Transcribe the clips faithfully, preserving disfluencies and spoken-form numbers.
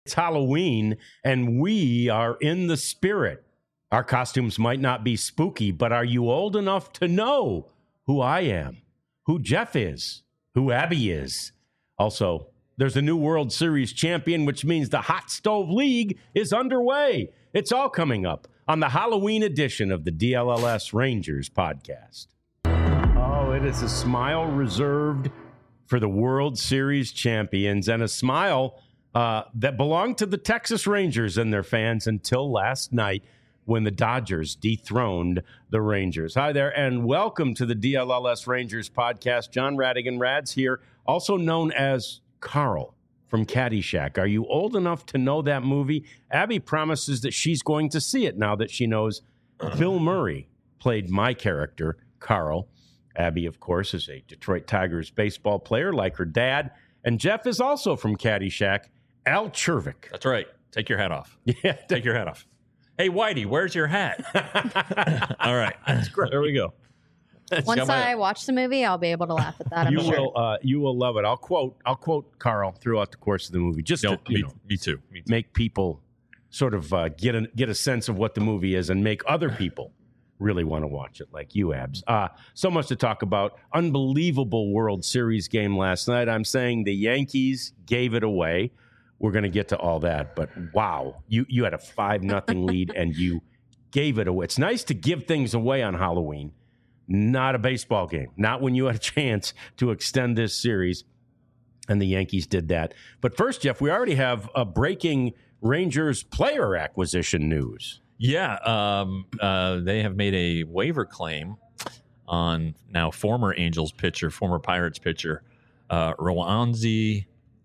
It's Halloween, and we are in the spirit. Our costumes might not be spooky, but are you old enough to know who I am, who Jeff is, who Abby is? Also, there's a new World Series champion, which means the Hot Stove League is underway. It's all coming up on the Halloween edition of the D L L S Rangers podcast. Oh, it is a smile reserved for the World Series champions, and a smile uh, that belonged to the Texas Rangers and their fans until last night when the Dodgers dethroned the Rangers. Hi there, and welcome to the D L L S Rangers podcast. John Radigan Rads here, also known as Carl from Caddyshack. Are you old enough to know that movie? Abby promises that she's going to see it now that she knows Bill Murray played my character, Carl. Abby, of course, is a Detroit Tigers baseball player like her dad. And Jeff is also from Caddyshack, Al Chervik. That's right. Take your hat off. Yeah. Take your hat off. Hey, Whitey, where's your hat? All right. That's great. There we go. Once I watch the movie, I'll be able to laugh at that. I'm you sure. will. Uh, you will love it. I'll quote. I'll quote Carl throughout the course of the movie, just No, to you me, know, me too. Me too. make people sort of uh, get a get a sense of what the movie is, and make other people really want to watch it, like you, Abs. Uh, so much to talk about. Unbelievable World Series game last night. I'm saying the Yankees gave it away. We're going to get to all that, but wow, you you had a five nothing lead and you gave it away. It's nice to give things away on Halloween. Not a baseball game. Not when you had a chance to extend this series. And the Yankees did that. But first, Jeff, we already have a breaking Rangers player acquisition news. Yeah. Um, uh, they have made a waiver claim on now former Angels pitcher, former Pirates pitcher, uh, Roansy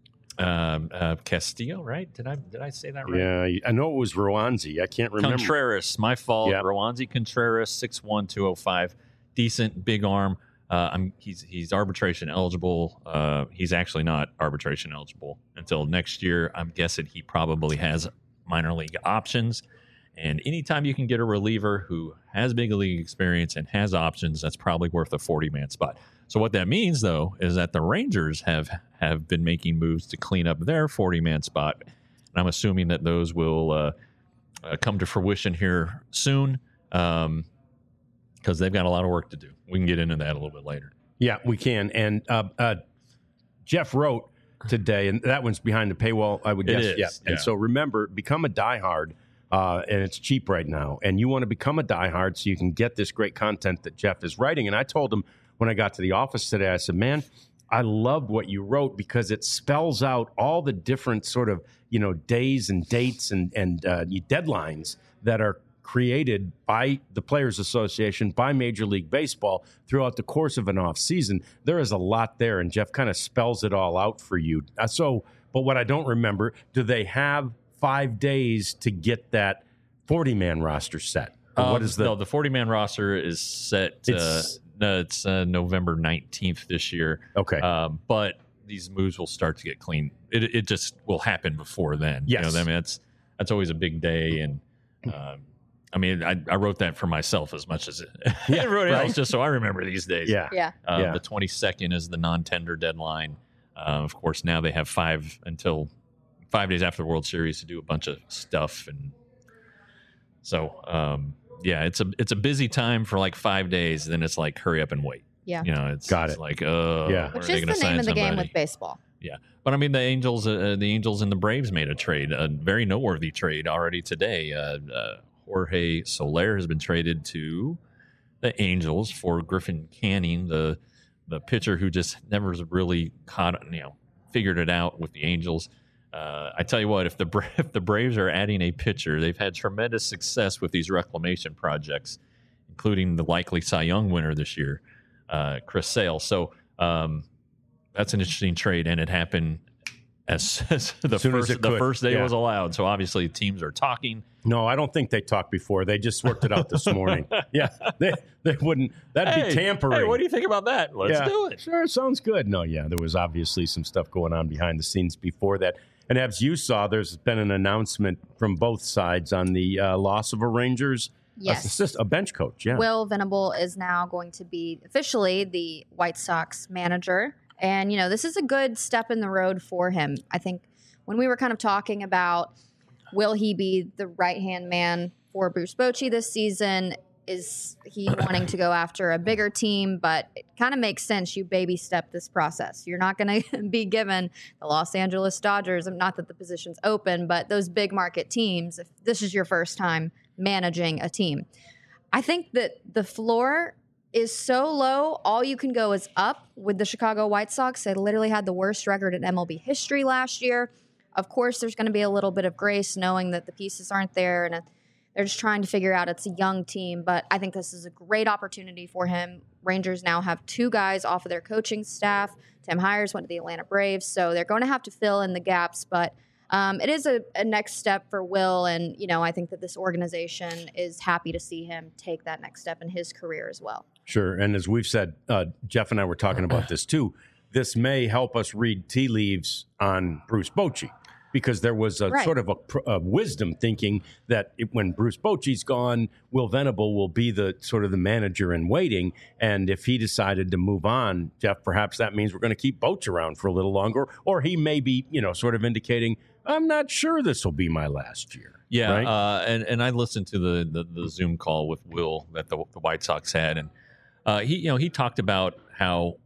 um, uh, Castillo, right? Did I did I say that right? Yeah, I know it was Roansy. I can't remember. Contreras, my fault. Yep. Roansy Contreras, six one, two oh five. Decent, big arm. Uh, I'm, he's he's arbitration eligible. Uh, he's actually not arbitration eligible until next year. I'm guessing he probably has minor league options. And anytime you can get a reliever who has big league experience and has options, that's probably worth a forty-man spot. So what that means, though, is that the Rangers have, have been making moves to clean up their forty-man spot. And I'm assuming that those will uh, uh, come to fruition here soon. Um because they've got a lot of work to do. We can get into that a little bit later. Yeah, we can. And uh, uh, Jeff wrote today, and that one's behind the paywall, I would It guess. is, Yeah. yeah. And so remember, become a diehard, uh, and it's cheap right now. And you want to become a diehard so you can get this great content that Jeff is writing. And I told him when I got to the office today, I said, man, I loved what you wrote because it spells out all the different sort of, you know, days and dates and, and uh, deadlines that are created by the Players Association, by Major League Baseball throughout the course of an off season. There is a lot there, and Jeff kind of spells it all out for you. Uh, so, but what I don't remember, do they have five days to get that forty-man roster set? Or Um, what is the? No, the forty-man roster is set. It's- uh, no, it's uh, November nineteenth this year. Okay. Um, but these moves will start to get clean. It, it just will happen before then. Yes. You know, I mean, that's that's always a big day, and um, I mean, I, I wrote that for myself as much as Yeah, everybody right. else, just so I remember these days. yeah. Yeah. Um, Yeah. The twenty-second is the non-tender deadline. Uh, of course, now they have five until five days after the World Series to do a bunch of stuff, and so um, yeah, it's a it's a busy time for like five days. Then it's like hurry up and wait. Yeah. You know, it's, Got it's it. like uh, Yeah. when Which are they is gonna the sign name of the game somebody? with baseball. Yeah, but I mean the Angels, uh, the Angels and the Braves made a trade, a very noteworthy trade already today. Uh, uh, Jorge Soler has been traded to the Angels for Griffin Canning, the the pitcher who just never really caught, you know, figured it out with the Angels. Uh, I tell you what, if the Bra- if the Braves are adding a pitcher, they've had tremendous success with these reclamation projects, including the likely Cy Young winner this year, uh, Chris Sale. So um, that's an interesting trade, and it happened as, as the Soon as first it the could, first day yeah. was allowed. So obviously teams are talking. No, I don't think they talked before. They just worked it out this morning. Yeah, they they wouldn't. That'd Hey, be tampering. Hey, what do you think about that? Let's Yeah. do it. Sure, sounds good. No, yeah, there was obviously some stuff going on behind the scenes before that. And as you saw, there's been an announcement from both sides on the uh, loss of a Rangers Yes. assist, a bench coach. Yeah, Will Venable is now going to be officially the White Sox manager. And, you know, this is a good step in the road for him. I think when we were kind of talking about will he be the right-hand man for Bruce Bochy this season, is he wanting to go after a bigger team? But it kind of makes sense. You baby step this process. You're not going to be given the Los Angeles Dodgers, not that the position's open, but those big market teams, if this is your first time managing a team. I think that the floor is so low, all you can go is up with the Chicago White Sox. They literally had the worst record in M L B history last year. Of course, there's going to be a little bit of grace knowing that the pieces aren't there and they're just trying to figure out it's a young team. But I think this is a great opportunity for him. Rangers now have two guys off of their coaching staff. Tim Hires went to the Atlanta Braves, so they're going to have to fill in the gaps. But um, it is a, a next step for Will, and you know I think that this organization is happy to see him take that next step in his career as well. Sure, and as we've said, uh, Jeff and I were talking about this too. This may help us read tea leaves on Bruce Bochy, because there was a right. sort of a, a wisdom thinking that it, when Bruce Bochy's gone, Will Venable will be the sort of the manager in waiting. And if he decided to move on, Jeff, perhaps that means we're going to keep Boch around for a little longer. Or he may be, you know, sort of indicating, I'm not sure this will be my last year. Yeah, right? uh, and, and I listened to the, the, the Zoom call with Will that the, the White Sox had. And uh, he, you know, he talked about how,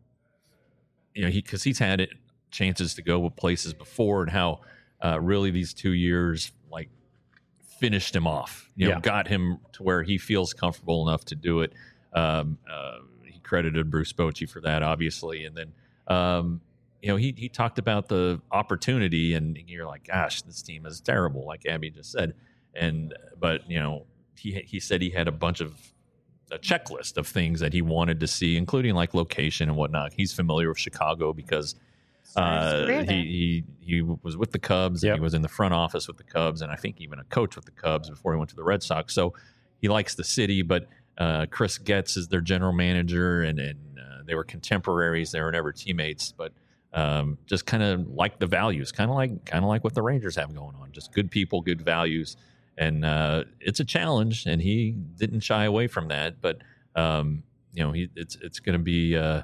you know, he because he's had it, chances to go with places before and how, Uh, really, these two years like finished him off. You know, yeah. got him to where he feels comfortable enough to do it. Um, uh, he credited Bruce Bochy for that, obviously, and then um, you know he he talked about the opportunity, and you're like, gosh, this team is terrible, like Abby just said. And but you know he he said he had a bunch of a checklist of things that he wanted to see, including like location and whatnot. He's familiar with Chicago because. Uh, he, he he was with the Cubs. Yep. And he was in the front office with the Cubs, and I think even a coach with the Cubs before he went to the Red Sox. So he likes the city. But uh, Chris Getz is their general manager, and and uh, they were contemporaries. They were never teammates, but um, just kind of like the values, kind of like kind of like what the Rangers have going on. Just good people, good values, and uh, it's a challenge. And he didn't shy away from that. But um, you know, he, it's it's going to be. Uh,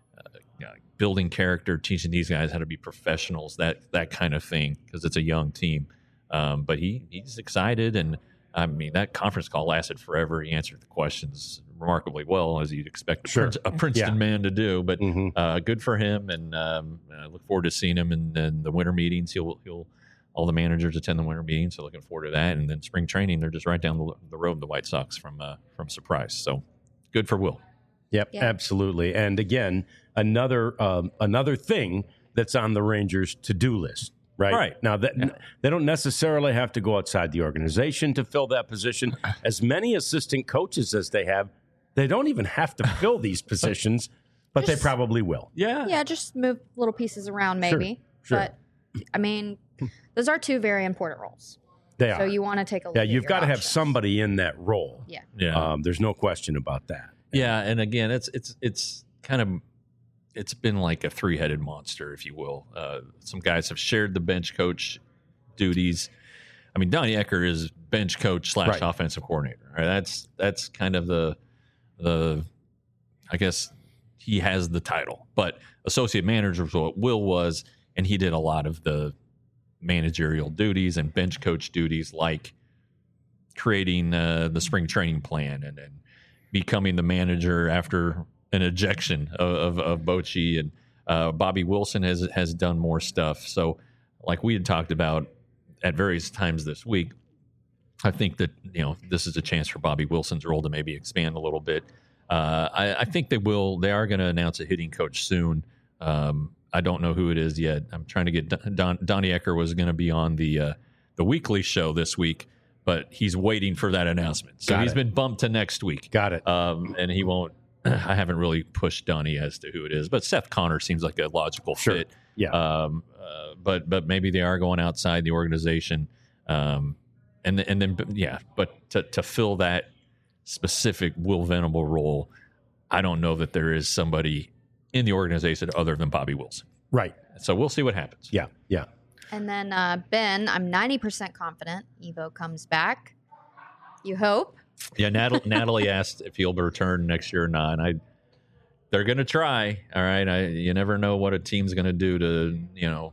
building character, teaching these guys how to be professionals, that that kind of thing, because it's a young team. Um, but he he's excited, and I mean that conference call lasted forever. He answered the questions remarkably well, as you'd expect a, sure. Prince, a Princeton yeah. man to do. But mm-hmm. uh, good for him, and um, I look forward to seeing him in, in the winter meetings. He'll he'll all the managers attend the winter meetings, so looking forward to that. And then spring training, they're just right down the, the road, the White Sox from uh, from Surprise. So good for Will. Yep, yeah. absolutely. And again, another um, another thing that's on the Rangers' to-do list, right? Right. Now, that, Yeah. they don't necessarily have to go outside the organization to fill that position. As many assistant coaches as they have, they don't even have to fill these positions, but Just- they probably will. Yeah. Yeah, just move little pieces around maybe. Sure. But, I mean, those are two very important roles. They So are. you want to take a look Yeah, at you've your got to have options. somebody in that role. Yeah. Yeah. Um, there's no question about that. Yeah, and again, it's it's it's kind of it's been like a three-headed monster, if you will. Uh, some guys have shared the bench coach duties. I mean, Donnie Ecker is bench coach slash Right. offensive coordinator. Right? That's that's kind of the the I guess he has the title, but associate manager is what Will was, and he did a lot of the managerial duties and bench coach duties, like creating uh, the spring training plan and and. becoming the manager after an ejection of, of, of Bochy, and uh, Bobby Wilson has has done more stuff. So, like we had talked about at various times this week, I think that you know this is a chance for Bobby Wilson's role to maybe expand a little bit. Uh, I, I think they will. They are going to announce a hitting coach soon. Um, I don't know who it is yet. I'm trying to get Don, Donnie Ecker was going to be on the uh, the weekly show this week, but he's waiting for that announcement. So Got he's it. been bumped to next week. Got it. Um, and he won't. I haven't really pushed Donnie as to who it is, but Seth Connor seems like a logical Sure. fit. Yeah. Um, uh, but but maybe they are going outside the organization. Um, and and then yeah, but to to fill that specific Will Venable role, I don't know that there is somebody in the organization other than Bobby Wilson. Right. So we'll see what happens. Yeah. Yeah. And then uh, Ben, I'm ninety percent confident Evo comes back. You hope. Yeah, Natalie, Natalie asked if he'll return next year or not. And I, they're going to try. All right, I, you never know what a team's going to do to you know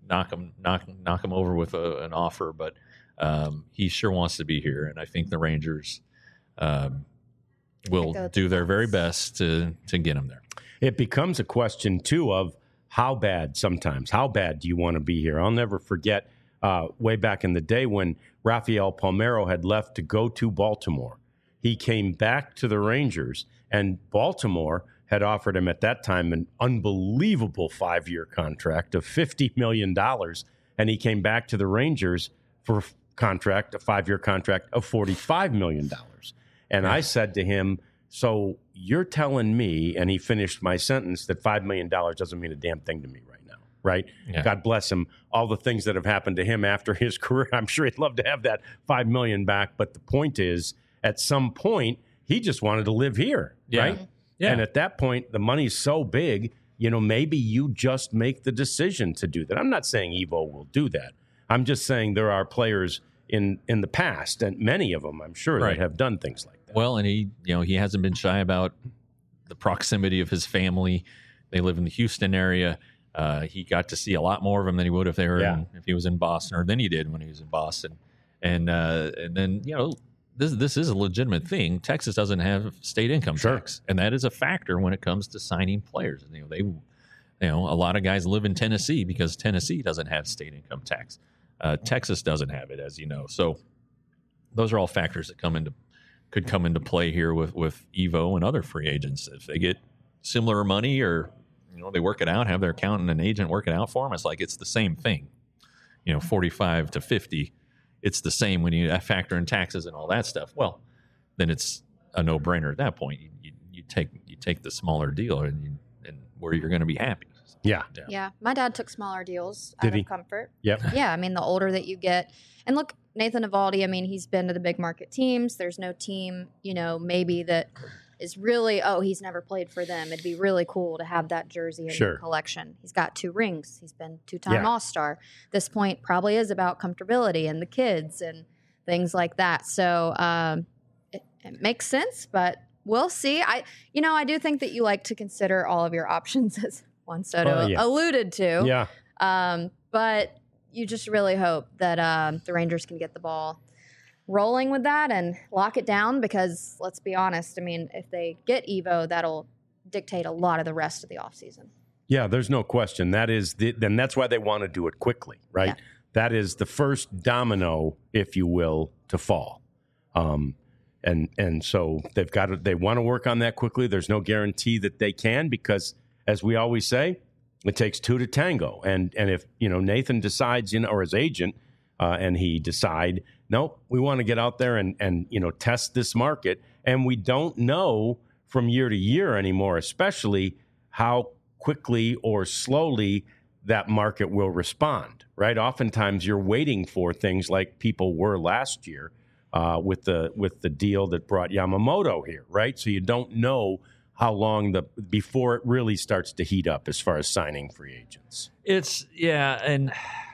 knock him knock knock him over with a, an offer, but um, he sure wants to be here, and I think the Rangers um, will do their very best to to get him there. It becomes a question too of how bad. Sometimes, how bad do you want to be here? I'll never forget uh, way back in the day when Rafael Palmeiro had left to go to Baltimore. He came back to the Rangers, and Baltimore had offered him at that time an unbelievable five-year contract of fifty million dollars, and he came back to the Rangers for a contract, a five-year contract of forty-five million dollars. And yeah. I said to him, so you're telling me, and he finished my sentence, that five million dollars doesn't mean a damn thing to me right now, right? Yeah. God bless him. All the things that have happened to him after his career, I'm sure he'd love to have that five million dollars back. But the point is, at some point, he just wanted to live here, yeah. right? Yeah. And at that point, the money's so big, you know, maybe you just make the decision to do that. I'm not saying Evo will do that. I'm just saying there are players in, in the past, and many of them, I'm sure, right. that have done things like that. Well, and he, you know, he hasn't been shy about the proximity of his family. They live in the Houston area. Uh, he got to see a lot more of them than he would if they were yeah. in, if he was in Boston, or than he did when he was in Boston. And uh, and then, you know, This this is a legitimate thing. Texas doesn't have state income sure. tax, and that is a factor when it comes to signing players. You know, they, you know, a lot of guys live in Tennessee because Tennessee doesn't have state income tax. Uh, Texas doesn't have it, as you know. So those are all factors that come into could come into play here with with Evo and other free agents. If they get similar money, or you know, they work it out, have their accountant and agent work it out for them, it's like it's the same thing. You know, forty-five to fifty. It's the same when you factor in taxes and all that stuff. Well, then it's a no-brainer at that point. You, you, you take you take the smaller deal, and, you, and where you're going to be happy. Yeah. yeah, yeah. My dad took smaller deals Did out he? of comfort. Yep. Yeah, I mean, the older that you get, and look, Nathan Eovaldi. I mean, he's been to the big market teams. There's no team, you know, maybe that is really, oh, he's never played for them. It'd be really cool to have that jersey in sure. your collection. He's got two rings. He's been two-time yeah. All-Star. This point probably is about comfortability and the kids and things like that. So um, it, it makes sense, but we'll see. I, you know, I do think that you like to consider all of your options, as Juan Soto uh, yeah. alluded to. Yeah. Um, but you just really hope that um, the Rangers can get the ball rolling with that and lock it down, because let's be honest, I mean, if they get Evo, that'll dictate a lot of the rest of the offseason. Yeah, there's no question. That is the, then that's why they want to do it quickly, right? Yeah. That is the first domino, if you will, to fall. Um, and and so they've got to, they want to work on that quickly. There's no guarantee that they can, because as we always say, it takes two to tango. And and if, you know, Nathan decides, you know, or his agent, uh, and he decide, no, we want to get out there and, and, you know, test this market. And we don't know from year to year anymore, especially how quickly or slowly that market will respond, right? Oftentimes you're waiting for things like people were last year uh, with the with the deal that brought Yamamoto here, right? So you don't know how long the before it really starts to heat up as far as signing free agents. It's, yeah, and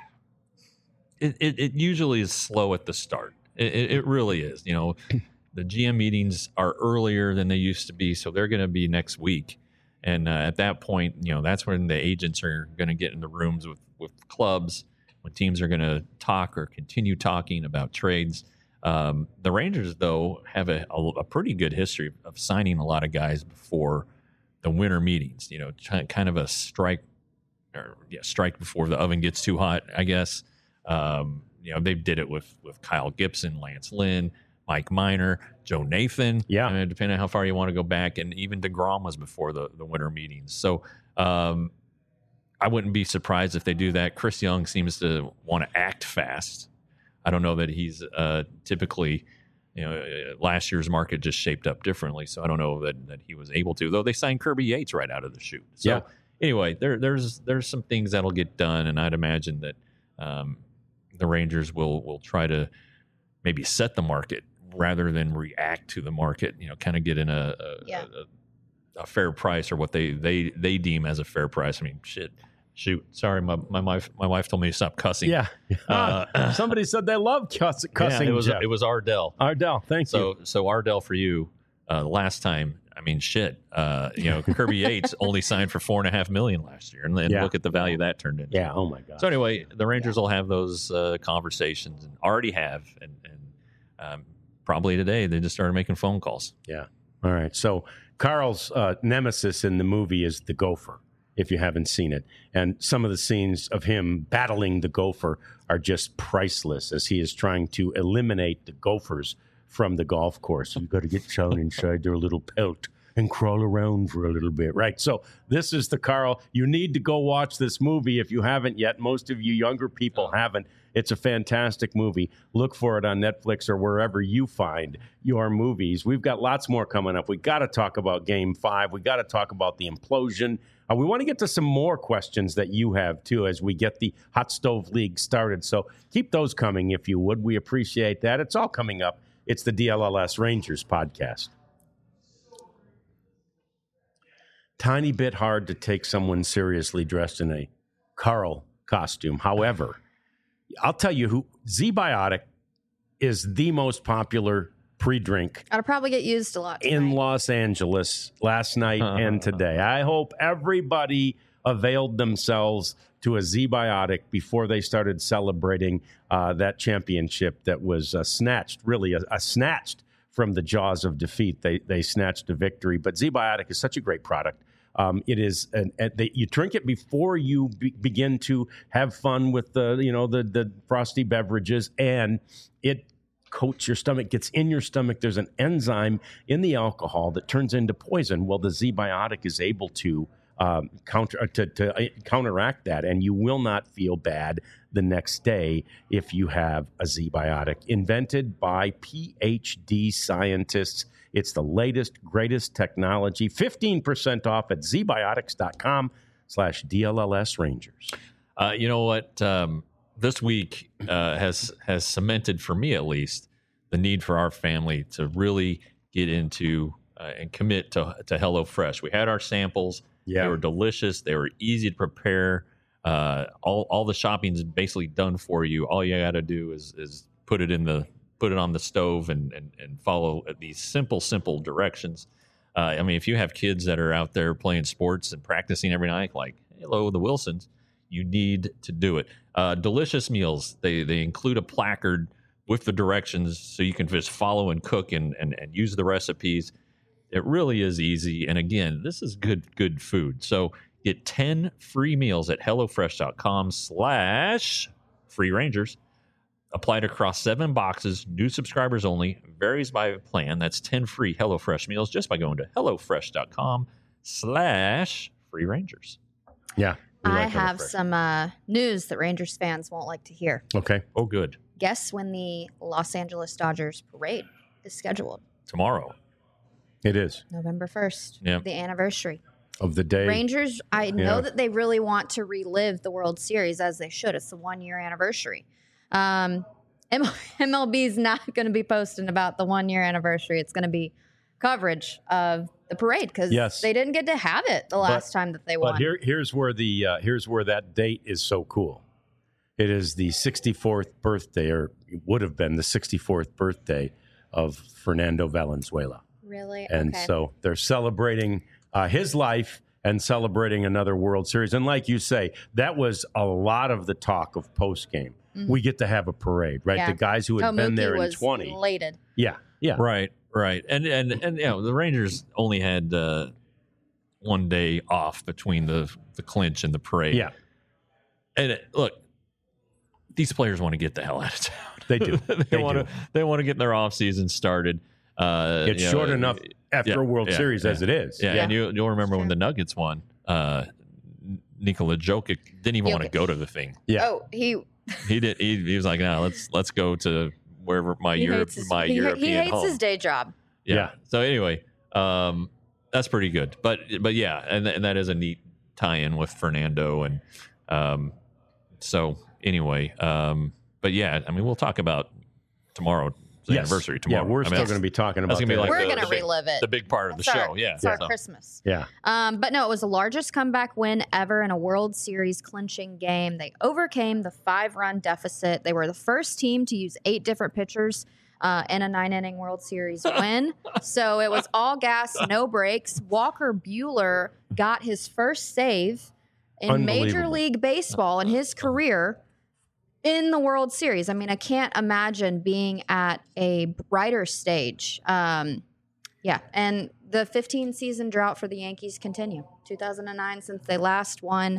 It, it, it usually is slow at the start. It, it, it really is. You know, the G M meetings are earlier than they used to be, so they're going to be next week. And uh, at that point, you know, that's when the agents are going to get in the rooms with, with clubs, when teams are going to talk or continue talking about trades. Um, the Rangers, though, have a, a, a pretty good history of signing a lot of guys before the winter meetings. You know, kind of a strike, or yeah, strike before the oven gets too hot, I guess. Um, you know, they did it with, with Kyle Gibson, Lance Lynn, Mike Minor, Joe Nathan. Yeah. I mean, depending on how far you want to go back. And even DeGrom was before the, the winter meetings. So um, I wouldn't be surprised if they do that. Chris Young seems to want to act fast. I don't know that he's uh, typically, you know, last year's market just shaped up differently. So I don't know that, that he was able to, though they signed Kirby Yates right out of the chute. So yeah. anyway, there, there's, there's some things that'll get done. And I'd imagine that, um, the Rangers will will try to maybe set the market rather than react to the market. You know, kind of get in a a, yeah. a a fair price, or what they, they, they deem as a fair price. I mean, shit, shoot. Sorry, my my wife my wife told me to stop cussing. Yeah, uh, somebody said they love cuss, cussing. Yeah, it was Jeff. it was Ardell. Ardell, thank so, you. So so Ardell for you. Uh, the last time I mean, shit. Uh, you know, Kirby Yates only signed for four and a half million last year, and then Yeah. look at the value that turned into. Yeah. Oh my God. So anyway, the Rangers will have those uh, conversations, and already have, and, and um, probably today they just started making phone calls. Yeah. All right. So Carl's uh, nemesis in the movie is the gopher, if you haven't seen it. And some of the scenes of him battling the gopher are just priceless as he is trying to eliminate the gophers from the golf course. You've got to get down inside their little pelt and crawl around for a little bit, right? So this is the Carl. You need to go watch this movie if you haven't yet. Most of you younger people haven't. It's a fantastic movie. Look for it on Netflix or wherever you find your movies. We've got lots more coming up. We got to talk about Game Five. We got to talk about the implosion. Uh, we want to get to some more questions that you have, too, as we get the Hot Stove League started. So keep those coming, if you would. We appreciate that. It's all coming up. It's the D L L S Rangers podcast. Tiny bit hard to take someone seriously dressed in a Carl costume. However, I'll tell you who, Z-Biotic is the most popular pre-drink I'll probably get used a lot in tonight. Los Angeles last night and today. I hope everybody availed themselves to a Z-Biotic before they started celebrating uh, that championship that was uh, snatched, really, a, a snatched from the jaws of defeat. They they snatched a victory. But Z-Biotic is such a great product. Um, it is an, an, they, you drink it before you be, begin to have fun with the you know the the frosty beverages, and it coats your stomach, gets in your stomach. There's an enzyme in the alcohol that turns into poison. Well, the Z-Biotic is able to um, counter to, to counteract that, and you will not feel bad the next day if you have a Z-Biotic. Invented by P H D scientists. It's the latest, greatest technology. fifteen percent off at zbiotics.com slash DLLS Rangers. Uh, you know what? Um, this week uh, has has cemented, for me at least, the need for our family to really get into uh, and commit to, to HelloFresh. We had our samples. Yeah. They were delicious. They were easy to prepare. Uh, all all the shopping's basically done for you. All you got to do is is put it in the put it on the stove and and, and follow these simple simple directions. Uh, I mean, if you have kids that are out there playing sports and practicing every night, like hello the Wilsons, you need to do it. Uh, delicious meals. They they include a placard with the directions so you can just follow and cook and and, and use the recipes. It really is easy. And again, this is good good food. So get ten free meals at HelloFresh.com slash free Rangers. Applied across seven boxes, new subscribers only, varies by plan. That's ten free HelloFresh meals just by going to HelloFresh.com slash free Rangers. Yeah. we I like have HelloFresh. some uh, news that Rangers fans won't like to hear. Okay. Oh, good. Guess when the Los Angeles Dodgers parade is scheduled? Tomorrow. It is. November first, Yep. the anniversary. Of the day. Rangers, I know Yeah. that they really want to relive the World Series, as they should. It's the one-year anniversary. Um, M L B is not going to be posting about the one-year anniversary. It's going to be coverage of the parade because Yes. they didn't get to have it the last time that they won. But here, here's where the uh, here's where that date is so cool. It is the sixty-fourth birthday, or it would have been the sixty-fourth birthday of Fernando Valenzuela, Really? and okay. so they're celebrating uh, his life and celebrating another World Series. And like you say, that was a lot of the talk of post game. Mhm. We get to have a parade, right? Yeah. The guys who had been Tomuki there in was twenty, elated. yeah, yeah, Right, right. And, and, and you know, the Rangers only had uh, one day off between the, the clinch and the parade. yeah. And it, look, these players want to get the hell out of town. They do. they They want do. to. They want to get their off season started. Uh, It's you short know, enough after yeah, a World yeah, Series yeah. as it is. Yeah, Yeah. and you, you'll remember when Sure. the Nuggets won. Uh, Nikola Jokic didn't even want to Jokic. go to the thing. yeah. Oh, he He did. He, he was like, "No, let's let's go to wherever my he Europe, hates his, my he, European he hates home." his day job. yeah. Yeah. So anyway, um, that's pretty good. But but yeah, and and that is a neat tie-in with Fernando, and um, so anyway, um, but yeah, I mean, we'll talk about tomorrow. The Yes. anniversary tomorrow. Yeah, we're I mean, still that's- going to be talking that's about gonna be that. like We're the- gonna the big- relive it. the big part of the It's our- show. Yeah, It's our so- Christmas. yeah. Um, but no, it was the largest comeback win ever in a World Series clinching game. They overcame the five-run deficit. They were the first team to use eight different pitchers uh, in a nine-inning World Series win. So it was all gas, no brakes. Walker Buehler got his first save in Major League Baseball in his career in the World Series. I mean, I can't imagine being at a brighter stage. Um, yeah, and the fifteen-season drought for the Yankees continue. two thousand nine since they last won.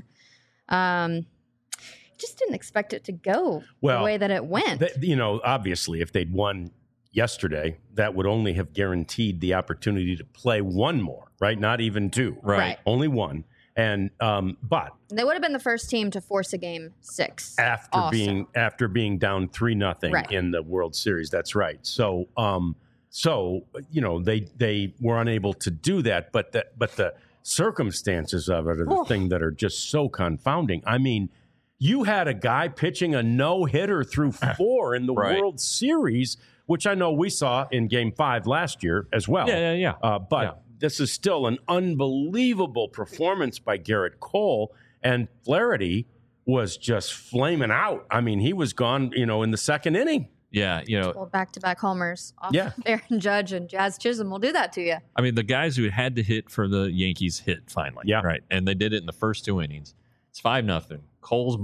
Um, just didn't expect it to go well, the way that it went. Th- you know, obviously, if they'd won yesterday, that would only have guaranteed the opportunity to play one more, right? Not even two. Right. Right. Only one. And um, but They would have been the first team to force a game six after also. being after being down three nothing Right. in the World Series, that's right. So um, so you know they they were unable to do that, but the, but the circumstances of it are the Oh. thing that are just so confounding. I mean, you had a guy pitching a no hitter through four in the Right. World Series, which I know we saw in Game Five last year as well. Yeah, yeah, yeah. Uh, but Yeah. this is still an unbelievable performance by Garrett Cole, and Flaherty was just flaming out. I mean, he was gone, you know, in the second inning. Yeah, you know, Well, back-to-back homers off Yeah. Aaron Judge and Jazz Chisholm will do that to you. I mean, the guys who had to hit for the Yankees hit finally. Yeah. Right. And they did it in the first two innings. It's five nothing. Cole's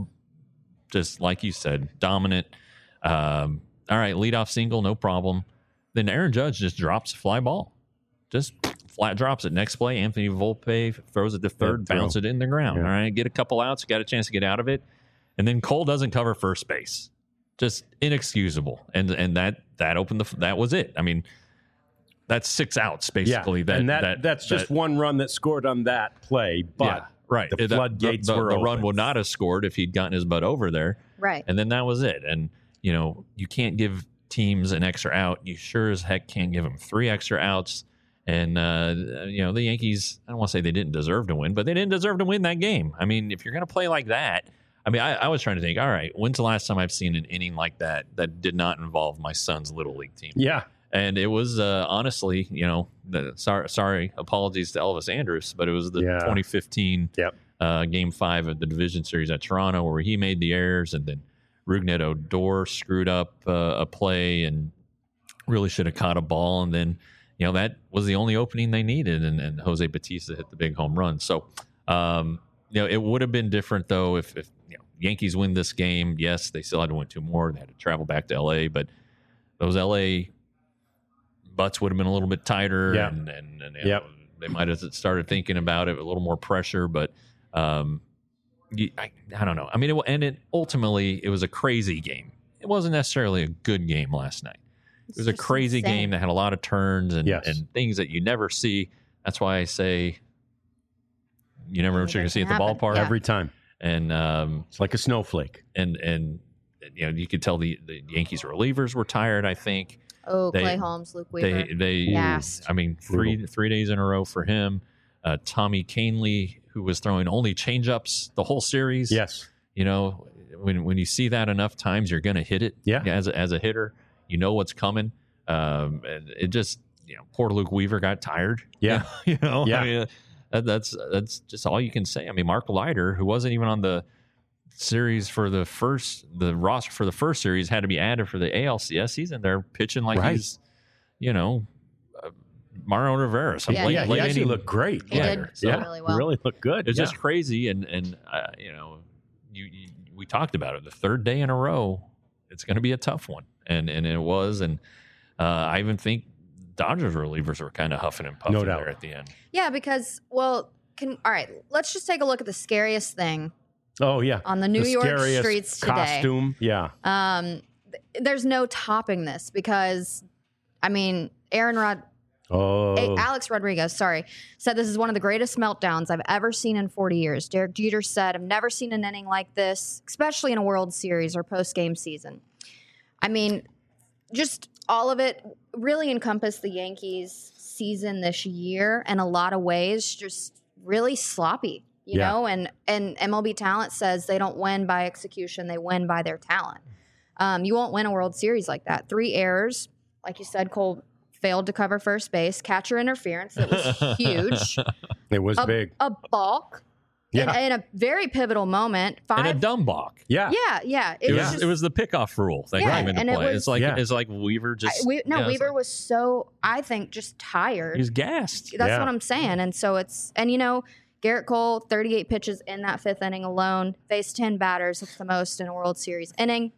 just, like you said, dominant. Um, all right, leadoff single, no problem. Then Aaron Judge just drops a fly ball. Just flat drops it. Next play, Anthony Volpe throws it to third, Yeah, bounce it in the ground. Yeah. All right, get a couple outs, got a chance to get out of it. And then Cole doesn't cover first base. Just inexcusable. And and that that opened the that was it. I mean, that's six outs basically. Yeah, That, and that, that that's just that, one run that scored on that play, but yeah, right. the That- floodgates the, the, were the open. run would not have scored if he'd gotten his butt over there. Right. And then that was it. And, you know, you can't give teams an extra out. You sure as heck can't give them three extra outs. And, uh, you know, the Yankees, I don't want to say they didn't deserve to win, but they didn't deserve to win that game. I mean, if you're going to play like that, I mean, I, I was trying to think, all right, when's the last time I've seen an inning like that that did not involve my son's Little League team? Yeah. And it was uh, honestly, you know, the, sorry, sorry, apologies to Elvis Andrus, but it was the Yeah. twenty fifteen Yep. uh, Game Five of the division series at Toronto, where he made the errors, and then Rougned Odor screwed up uh, a play and really should have caught a ball, and then you know that was the only opening they needed, and, and Jose Bautista hit the big home run. So, um, you know, it would have been different though if, if you know, Yankees win this game. Yes, they still had to win two more. They had to travel back to L A, but those L A butts would have been a little bit tighter, Yeah. and, and, and you Yep. know, they might have started thinking about it, a little more pressure, but um, you, I, I don't know. I mean, it, and it ultimately, it was a crazy game. It wasn't necessarily a good game last night. It was a just crazy insane. game that had a lot of turns and, Yes. and things that you never see. That's why I say you never know what you're going to see at the Anything can ballpark. happen. Every time. And um, It's like a snowflake. and and you know, you could tell the, the Yankees relievers were tired. I think Oh, They- Clay Holmes, Luke Weaver. they they Gassed. I mean, three three days in a row for him. Uh, Tommy Kahnle, who was throwing only changeups the whole series. Yes. You know, when when you see that enough times, you're going to hit it. Yeah. As a, as a hitter, you know what's coming. Um, and it just, you know, poor Luke Weaver got tired. Yeah. You know, Yeah. I mean, that, that's that's just all you can say. I mean, Mark Leiter, who wasn't even on the series for the first, the roster for the first series, had to be added for the A L C S. He's in there pitching like Right. he's, you know, uh, Mario Rivera. Some Yeah. late, yeah, he late actually inning- looked great. He Yeah. did Yeah. really well. Really looked good. It's yeah. just crazy, and and uh, you know, you, you we talked about it. The third day in a row, it's going to be a tough one, and and it was, and uh, I even think Dodgers relievers were kind of huffing and puffing No doubt. there at the end. Yeah, because well, can all right. Let's just take a look at the scariest thing Oh, yeah. on the New the York scariest streets today. costume. Yeah. Um, th- there's no topping this because, I mean, Aaron Rod, Oh. A- Alex Rodriguez, sorry, said this is one of the greatest meltdowns I've ever seen in forty years. Derek Jeter said, "I've never seen an inning like this, especially in a World Series or post-game season." I mean, just all of it really encompassed the Yankees' season this year in a lot of ways, just really sloppy, you Yeah. know? And, and M L B Talent says they don't win by execution, they win by their talent. Um, you won't win a World Series like that. Three errors. Like you said, Cole failed to cover first base. Catcher interference. That was huge. It was a, big. a balk Yeah. in, in a very pivotal moment. Five, And a dumb balk. Yeah. yeah, yeah. It, It was was just, it was the pickoff rule that Yeah, came into and it play. was- it's like Yeah. it's like Weaver just I, we, no, yeah, it's Weaver like- was so, I think, just tired. he was gassed. That's Yeah. what I'm saying. And so it's, and you know, Garrett Cole, thirty-eight pitches in that fifth inning alone, faced ten batters. It's the most in a World Series inning.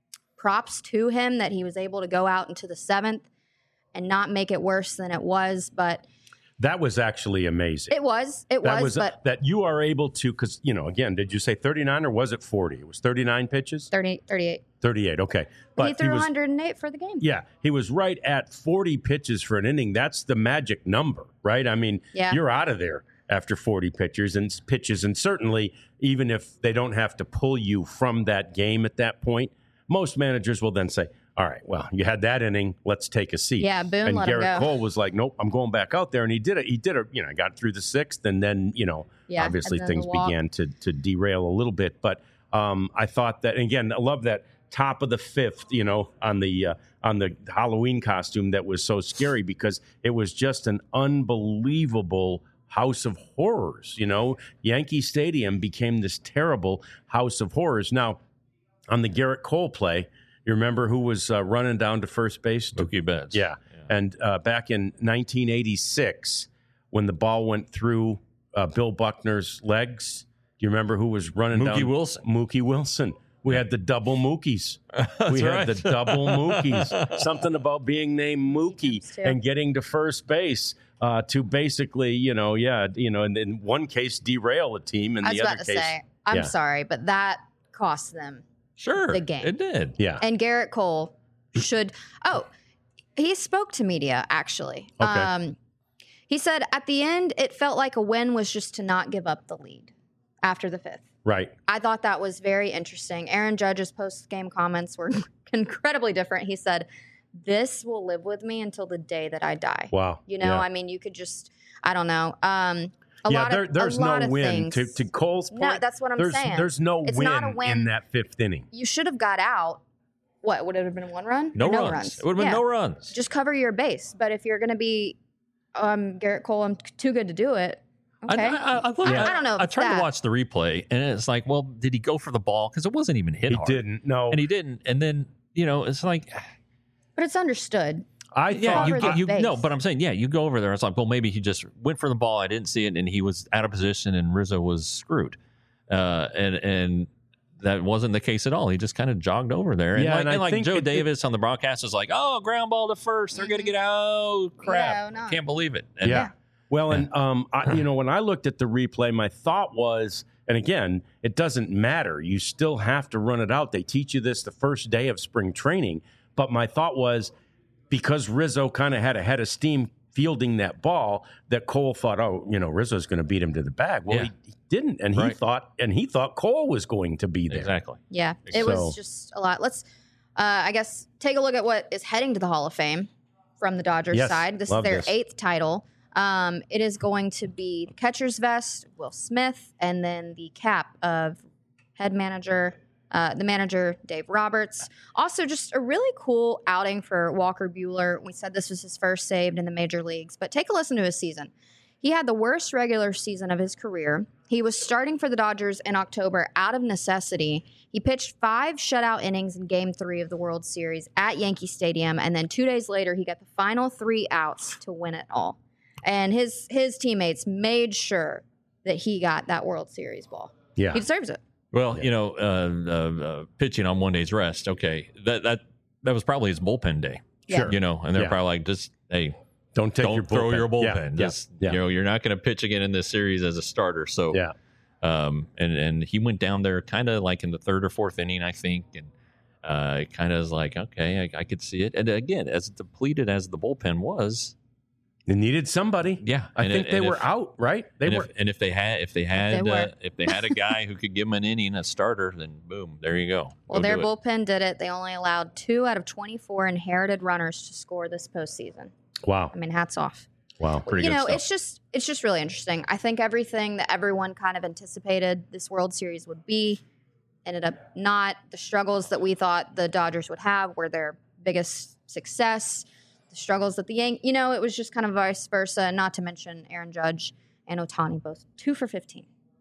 Props to him that he was able to go out into the seventh and not make it worse than it was. But That was actually amazing. it was, it that was, was but that you are able to, because, you know, again, did you say thirty-nine or was it forty? It was thirty-nine pitches? thirty, thirty-eight. thirty-eight, okay. But he threw was, one hundred eight for the game. yeah, he was right at forty pitches for an inning. That's the magic number, right? I mean, Yeah. you're out of there after forty pitchers and pitches. And certainly, even if they don't have to pull you from that game at that point, most managers will then say, all right, well, you had that inning. Let's take a seat. Yeah, Boone and let him Garrett go. Cole was like, nope, I'm going back out there. And he did it. He did it, you know, got through the sixth. And then, you know, Yeah, obviously and then things the walk. began to, to derail a little bit. But um, I thought that, and again, I love that top of the fifth, you know, on the uh, on the Halloween costume that was so scary because it was just an unbelievable house of horrors. You know, Yankee Stadium became this terrible house of horrors. Now, on the Garrett Cole play, you remember who was uh, running down to first base? Mookie Betts. Yeah. And uh, back in nineteen eighty-six, when the ball went through uh, Bill Buckner's legs, do you remember who was running down? Mookie Wilson. Mookie Wilson. We had the double Mookies. That's we had right. the double Mookies. Something about being named Mookie Yes, too. and getting to first base uh, to basically, you know, yeah, you know, and in one case derail a team, and I was the about other to case, say, I'm yeah. sorry, but that cost them. Sure. the game. It did. yeah, And Garrett Cole should. Oh, he spoke to media, actually. Okay. Um, he said at the end, it felt like a win was just to not give up the lead after the fifth. right. I thought that was very interesting. Aaron Judge's post-game comments were incredibly different. He said, this will live with me until the day that I die. Wow. You know, Yeah. I mean, you could just, I don't know. Um, a yeah, lot there, of, there's a lot no of win things. to, to Cole's point. No, that's what I'm there's, saying. There's no It's win, not a win. in that fifth inning. You should have got out. What, would it have been one run? No, Or runs. It would have been Yeah. no runs. Just cover your base. But if you're going to be um, Garrett Cole, I'm too good to do it. Okay. I, I, I, looked- I- I don't know if I tried that- to watch the replay, and it's like, well, did he go for the ball? Because it wasn't even hit He hard. didn't. No. and he didn't. And then you know, it's like, But it's understood. I yeah, thought you, Cover get, the you base. no, but I'm saying, yeah, you go over there. It's like, well, maybe he just went for the ball. I didn't see it, and he was out of position, and Rizzo was screwed. Uh, and and that wasn't the case at all. He just kind of jogged over there. And Yeah, like, and I and like think Joe it- it- Davis on the broadcast was like, oh, ground ball to first. They're going to get out. Crap. Yeah, no. Can't believe it. And Yeah. Well, and um, I, you know, when I looked at the replay, my thought was, and again, it doesn't matter. You still have to run it out. They teach you this the first day of spring training. But my thought was, because Rizzo kind of had a head of steam fielding that ball, that Cole thought, oh, you know, Rizzo's going to beat him to the bag. Well, Yeah. he, he didn't, and he Right. thought, and he thought Cole was going to be there. Exactly. Yeah. It So- was just a lot. Let's, uh, I guess, take a look at what is heading to the Hall of Fame from the Dodgers Yes, side. This is love their this. eighth title. Um, it is going to be the catcher's vest, Will Smith, and then the cap of head manager, uh, the manager, Dave Roberts. Also, just a really cool outing for Walker Buehler. We said this was his first save in the major leagues, but take a listen to his season. He had the worst regular season of his career. He was starting for the Dodgers in October out of necessity. He pitched five shutout innings in Game three of the World Series at Yankee Stadium, and then two days later, he got the final three outs to win it all. And his his teammates made sure that he got that World Series ball. Yeah. He deserves it. Well, Yeah. you know, uh, uh, uh, pitching on one day's rest. Okay, that that that was probably his bullpen day. Yeah. Sure. You know, and they're Yeah. probably like, just hey, Don't take don't your throw bullpen. your bullpen. Yeah. Just Yeah. you know, you're not going to pitch again in this series as a starter. So Yeah. um, and and he went down there kind of like in the third or fourth inning, I think, and uh, kind of is like, okay, I, I could see it. And again, as depleted as the bullpen was, They needed somebody. yeah, I and think it- they and were if- out, right? They and were. if, and if they had if they had They uh, were. if they had a guy who could give them an inning, a starter, then boom, there you go. Well, Go their do it. bullpen did it. They only allowed two out of twenty-four inherited runners to score this postseason. Wow. I mean, hats off. Wow. Pretty you good know, stuff. it's just it's just really interesting. I think everything that everyone kind of anticipated this World Series would be ended up not. The struggles that we thought the Dodgers would have were their biggest success. The struggles that the Yankees, you know, it was just kind of vice versa. Not to mention Aaron Judge and Ohtani, both two for fifteen.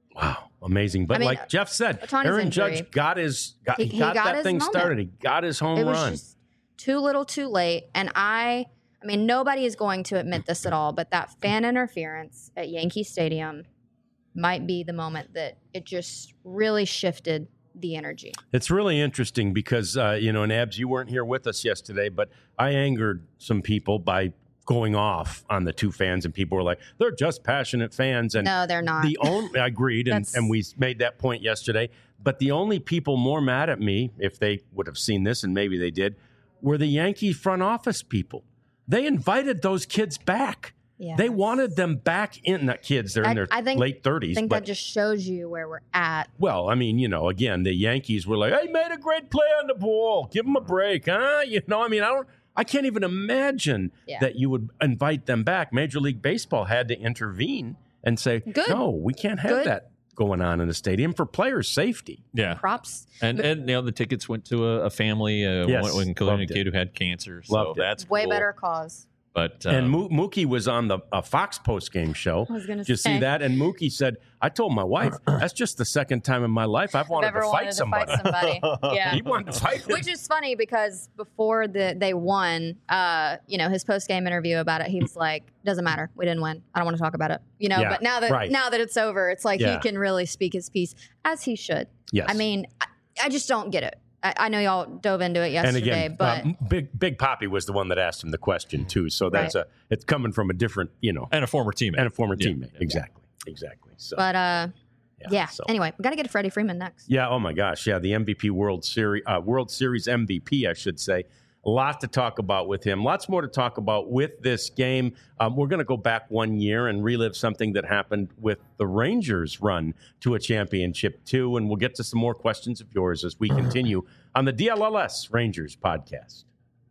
Wow, amazing. But I mean, like Jeff said, Ohtani's Aaron injury. Judge got his got, He- he, he got, got that his thing moment. started. He got his home It was run. just too little, too late. And I, I mean, nobody is going to admit this at all, but that fan interference at Yankee Stadium might be the moment that it just really shifted the energy. It's really interesting because, uh, you know, and Abs, you weren't here with us yesterday, but I angered some people by going off on the two fans, and people were like, they're just passionate fans. And No, they're not. the only, I agreed, and, That's- and we made that point yesterday, but the only people more mad at me, if they would have seen this, and maybe they did, were the Yankee front office people. They invited those kids back. Yeah. They wanted them back in, not kids, they're in I- their I think- late I thirties. think but that just shows you where we're at. Well, I mean, you know, again, the Yankees were like, "Hey, made a great play on the ball. Give them a break, huh?" You know, I mean, I don't, I can't even imagine Yeah. that you would invite them back. Major League Baseball had to intervene and say, Good. "No, we can't have Good. that going on in the stadium for players' safety." Yeah. Props. And, and you know, the tickets went to a, a family, uh, Yes, one, including a loved it. kid who had cancer. So Loved it. that's Way cool. better cause. But uh, and Mo- Mookie was on the uh, Fox post game show. I was gonna Did you see say. that? And Mookie said, "I told my wife that's just the second time in my life I've wanted Never to wanted fight to somebody." fight somebody. Yeah. He wanted to fight him. Which is funny because before the they won, uh, you know, his post game interview about it, he was like, "Doesn't matter, we didn't win. I don't want to talk about it." You know, Yeah, but now that right. now that it's over, it's like Yeah. he can really speak his piece as he should. Yes. I mean, I, I just don't get it. I, I know y'all dove into it And yesterday, again, but uh, Big Big Poppy was the one that asked him the question too. So that's Right. a it's coming from a different, you know, and a former teammate. and a former Yeah. teammate. Exactly, exactly. So but uh, yeah. so- Anyway, we got to get to Freddie Freeman next. yeah. Oh my gosh, yeah. The M V P World Series, uh, World Series M V P, I should say. A lot to talk about with him. Lots more to talk about with this game. Um, we're going to go back one year and relive something that happened with the Rangers' run to a championship too. And we'll get to some more questions of yours as we continue on the D L L S Rangers podcast.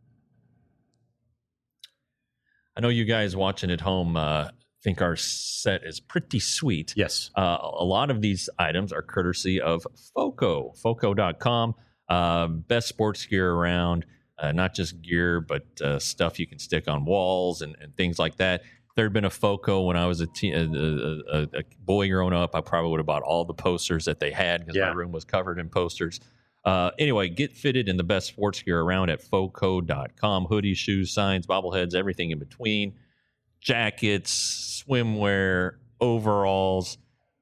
I know you guys watching at home uh, think our set is pretty sweet. Yes. Uh, a lot of these items are courtesy of Foco, foco dot com. Uh, best sports gear around, uh, not just gear, but uh, stuff you can stick on walls and, and things like that. If there had been a Foco when I was a, teen, a, a, a, a boy growing up, I probably would have bought all the posters that they had because Yeah. my room was covered in posters. Uh, anyway, get fitted in the best sports gear around at foco dot com. Hoodies, shoes, signs, bobbleheads, everything in between. Jackets, swimwear, overalls,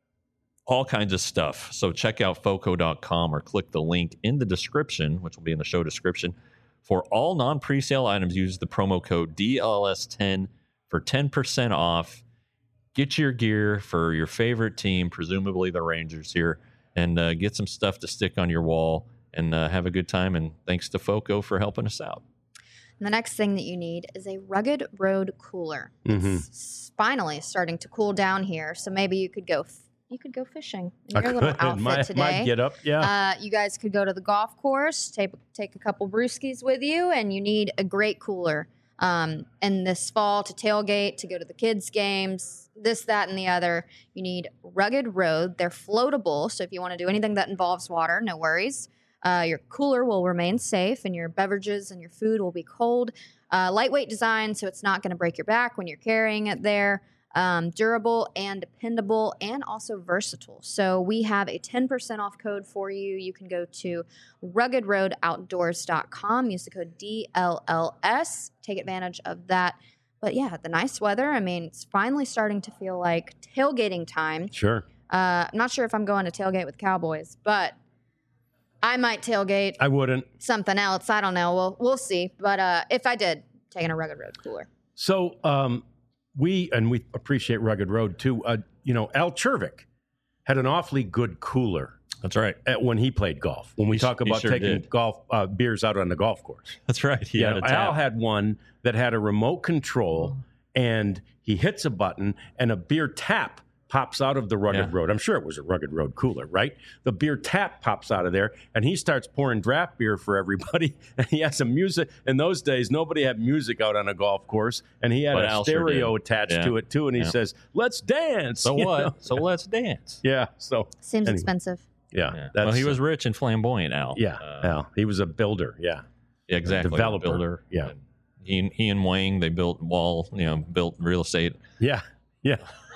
all kinds of stuff. So check out foco dot com or click the link in the description, which will be in the show description. For all non-presale items, use the promo code D L S ten for ten percent off. Get your gear for your favorite team, presumably the Rangers here, and uh, get some stuff to stick on your wall and uh, have a good time. And thanks to Foco for helping us out. And the next thing that you need is a Rugged Road cooler. Mhm. It's finally starting to cool down here, so maybe you could go. F- you could go fishing in I your little could. outfit my, today. my get up. Yeah. Uh, you guys could go to the golf course, take take a couple brewskis with you, and you need a great cooler. Um, and this fall to tailgate, to go to the kids' games, this, that, and the other. You need Rugged Road. They're floatable, so if you want to do anything that involves water, no worries. Uh, your cooler will remain safe, and your beverages and your food will be cold. Uh, lightweight design, so it's not going to break your back when you're carrying it there. Um, durable and dependable, and also versatile. So we have a ten percent off code for you. You can go to rugged road outdoors dot com. Use the code D L L S. Take advantage of that. But yeah, the nice weather. I mean, it's finally starting to feel like tailgating time. Sure. Uh, I'm not sure if I'm going to tailgate with Cowboys, but I might tailgate I wouldn't. something else. I don't know. We'll we'll see. But uh, if I did, taking a Rugged Road cooler. So um, we, and we appreciate Rugged Road too. Uh, you know, Al Chervik had an awfully good cooler That's right. at, when he played golf. When we He sh- talk he about sure taking did. golf uh, beers out on the golf course. That's right. He Yeah, had a Al tap. had one that had a remote control, and he hits a button, and a beer tap pops out of the Rugged Yeah. Road. I'm sure it was a Rugged Road cooler, right? The beer tap pops out of there, and he starts pouring draft beer for everybody. And he has some music. In those days, nobody had music out on a golf course, and he had But a Al sure stereo did. attached Yeah. to it too. And he Yeah. says, "Let's dance." So you what? know? So let's dance. Yeah. So Seems Anyway. expensive. yeah, Yeah. that's Well, he was rich and flamboyant, Al. yeah. Uh, Al. He was a builder. Yeah. Yeah, exactly. developer. Builder. Yeah. And he and he and Wang, they built wall, you know, built real estate. Yeah. Yeah.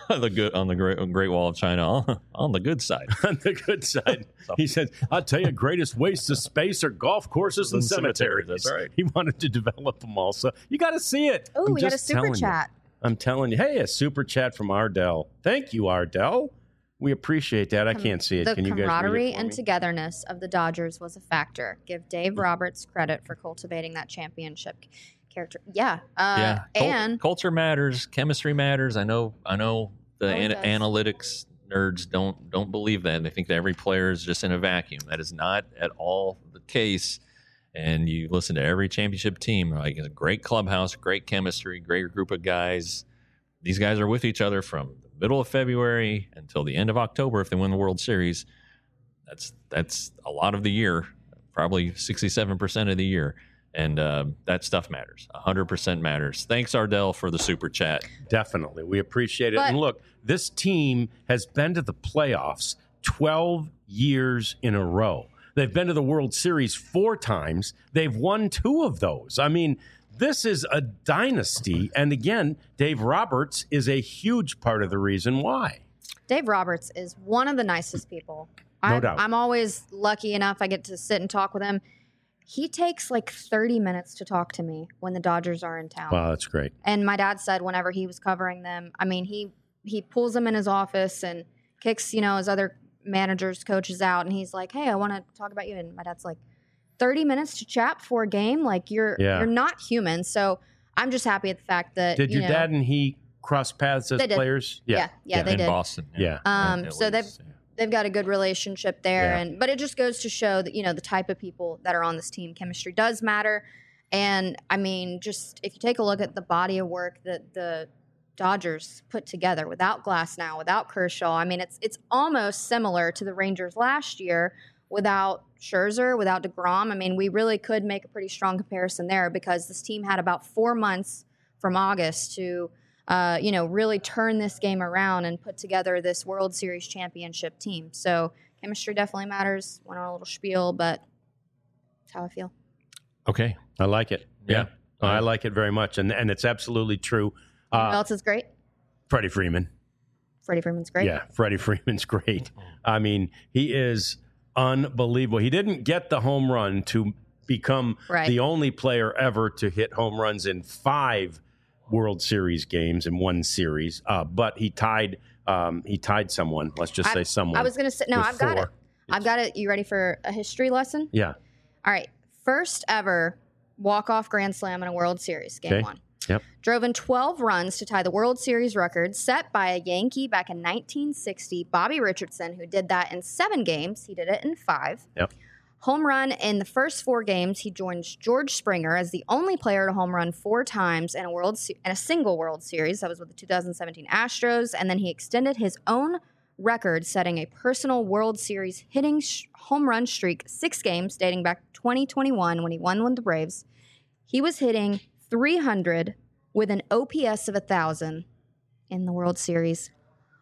the good on the Great, Great Wall of China on, on the good side. On the good side, he said, "I'll tell you, greatest wastes of space are golf courses and, and cemeteries." cemeteries. That's right. He wanted to develop them all, so you got to see it. Oh, I'm we got a just super telling you. chat. I'm telling you. Hey, a super chat from Ardell. Thank you, Ardell. We appreciate that. I can't see it. The Can you guys read camaraderie it for and me? togetherness of the Dodgers was a factor. Give Dave Roberts credit for cultivating that championship character. Yeah. Uh, yeah, Cul- and culture matters, chemistry matters. I know. I know the Oh, it an- does. analytics nerds don't don't believe that. They think that every player is just in a vacuum. That is not at all the case. And you listen to every championship team, like it's a great clubhouse, great chemistry, great group of guys. These guys are with each other from the middle of February until the end of October if they win the World Series. That's that's a lot of the year, probably sixty-seven percent of the year. And uh, that stuff matters. one hundred percent matters. Thanks, Ardell, for the super chat. Definitely. We appreciate it. But- and look, this team has been to the playoffs twelve years in a row. They've been to the World Series four times. They've won two of those. I mean, this is a dynasty. And again, Dave Roberts is a huge part of the reason why. Dave Roberts is one of the nicest people. No I'm, doubt. I'm always lucky enough I get to sit and talk with him. He takes like thirty minutes to talk to me when the Dodgers are in town. Wow, that's great. And my dad said whenever he was covering them, I mean, he he pulls them in his office and kicks, you know, his other managers, coaches out, and he's like, "Hey, I want to talk about you." And my dad's like, thirty minutes to chat before a game? Like, you're Yeah. you're not human." So I'm just happy at the fact that Did you your know, dad and he cross paths as They did. players? Yeah, yeah, they in did. Boston. Yeah. Um, At so they've least, yeah. they've got a good relationship there, Yeah. and but it just goes to show that you know the type of people that are on this team. Chemistry does matter, and I mean, just if you take a look at the body of work that the Dodgers put together without Glasnow, without Kershaw, I mean, it's it's almost similar to the Rangers last year without Scherzer, without DeGrom. I mean, we really could make a pretty strong comparison there because this team had about four months from August to. Uh, you know, really turn this game around and put together this World Series championship team. So chemistry definitely matters. Went on a little spiel, but that's how I feel. Okay. I like it. Yeah. Yeah. I like it very much. And and it's absolutely true. You know Uh, who else is great? Freddie Freeman. Freddie Freeman's great. Yeah, Freddie Freeman's great. I mean, he is unbelievable. He didn't get the home run to become Right. the only player ever to hit home runs in five World Series games in one series, uh, but he tied um, he tied someone. Let's just I- say someone. I was going to say, no, with I've got four. it. I've got it. You ready for a history lesson? Yeah. All right. First ever walk-off grand slam in a World Series, game Okay. one. Yep. Drove in twelve runs to tie the World Series record set by a Yankee back in nineteen sixty, Bobby Richardson, who did that in seven games. He did it in five. Yep. Home run in the first four games. He joins George Springer as the only player to home run four times in a world Se- in a single World Series. That was with the two thousand seventeen Astros, and then he extended his own record, setting a personal World Series hitting sh- home run streak, six games dating back to twenty twenty-one when he won with the Braves. He was hitting three hundred with an O P S of one thousand in the World Series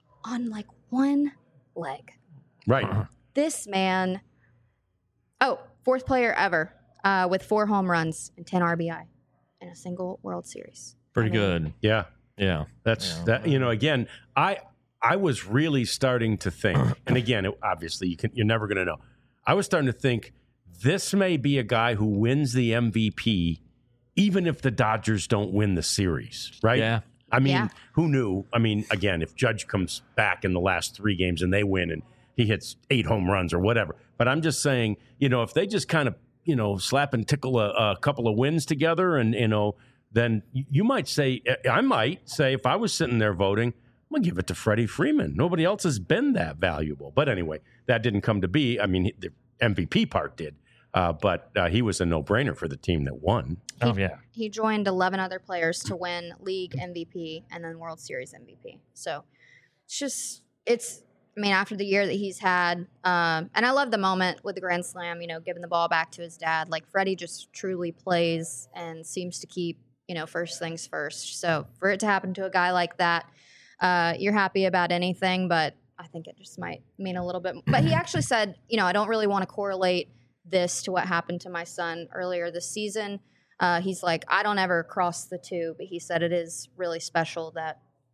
on like one leg. Right. This man, oh, fourth player ever uh, with four home runs and ten R B I in a single World Series. Pretty I mean, good. Yeah. Yeah. That's Yeah. that. You know, again, I I was really starting to think, and again, it, obviously, you can you're never going to know. I was starting to think this may be a guy who wins the M V P, even if the Dodgers don't win the series. Right? Yeah. I mean, Yeah. who knew? I mean, again, if Judge comes back in the last three games and they win and he hits eight home runs or whatever. But I'm just saying, you know, if they just kind of, you know, slap and tickle a, a couple of wins together and, you know, then you might say, I might say, if I was sitting there voting, I'm going to give it to Freddie Freeman. Nobody else has been that valuable. But anyway, that didn't come to be. I mean, the M V P part did. Uh, but uh, he was a no-brainer for the team that won. Oh, yeah. He joined eleven other players to win league M V P and then World Series M V P. So it's just, it's, I mean, after the year that he's had, um, and I love the moment with the Grand Slam, you know, giving the ball back to his dad. Like, Freddie just truly plays and seems to keep, you know, first things first. So for it to happen to a guy like that, uh, you're happy about anything, but I think it just might mean a little bit. But he actually said, you know, I don't really want to correlate this to what happened to my son earlier this season. Uh, he's like, I don't ever cross the two, but he said it is really special that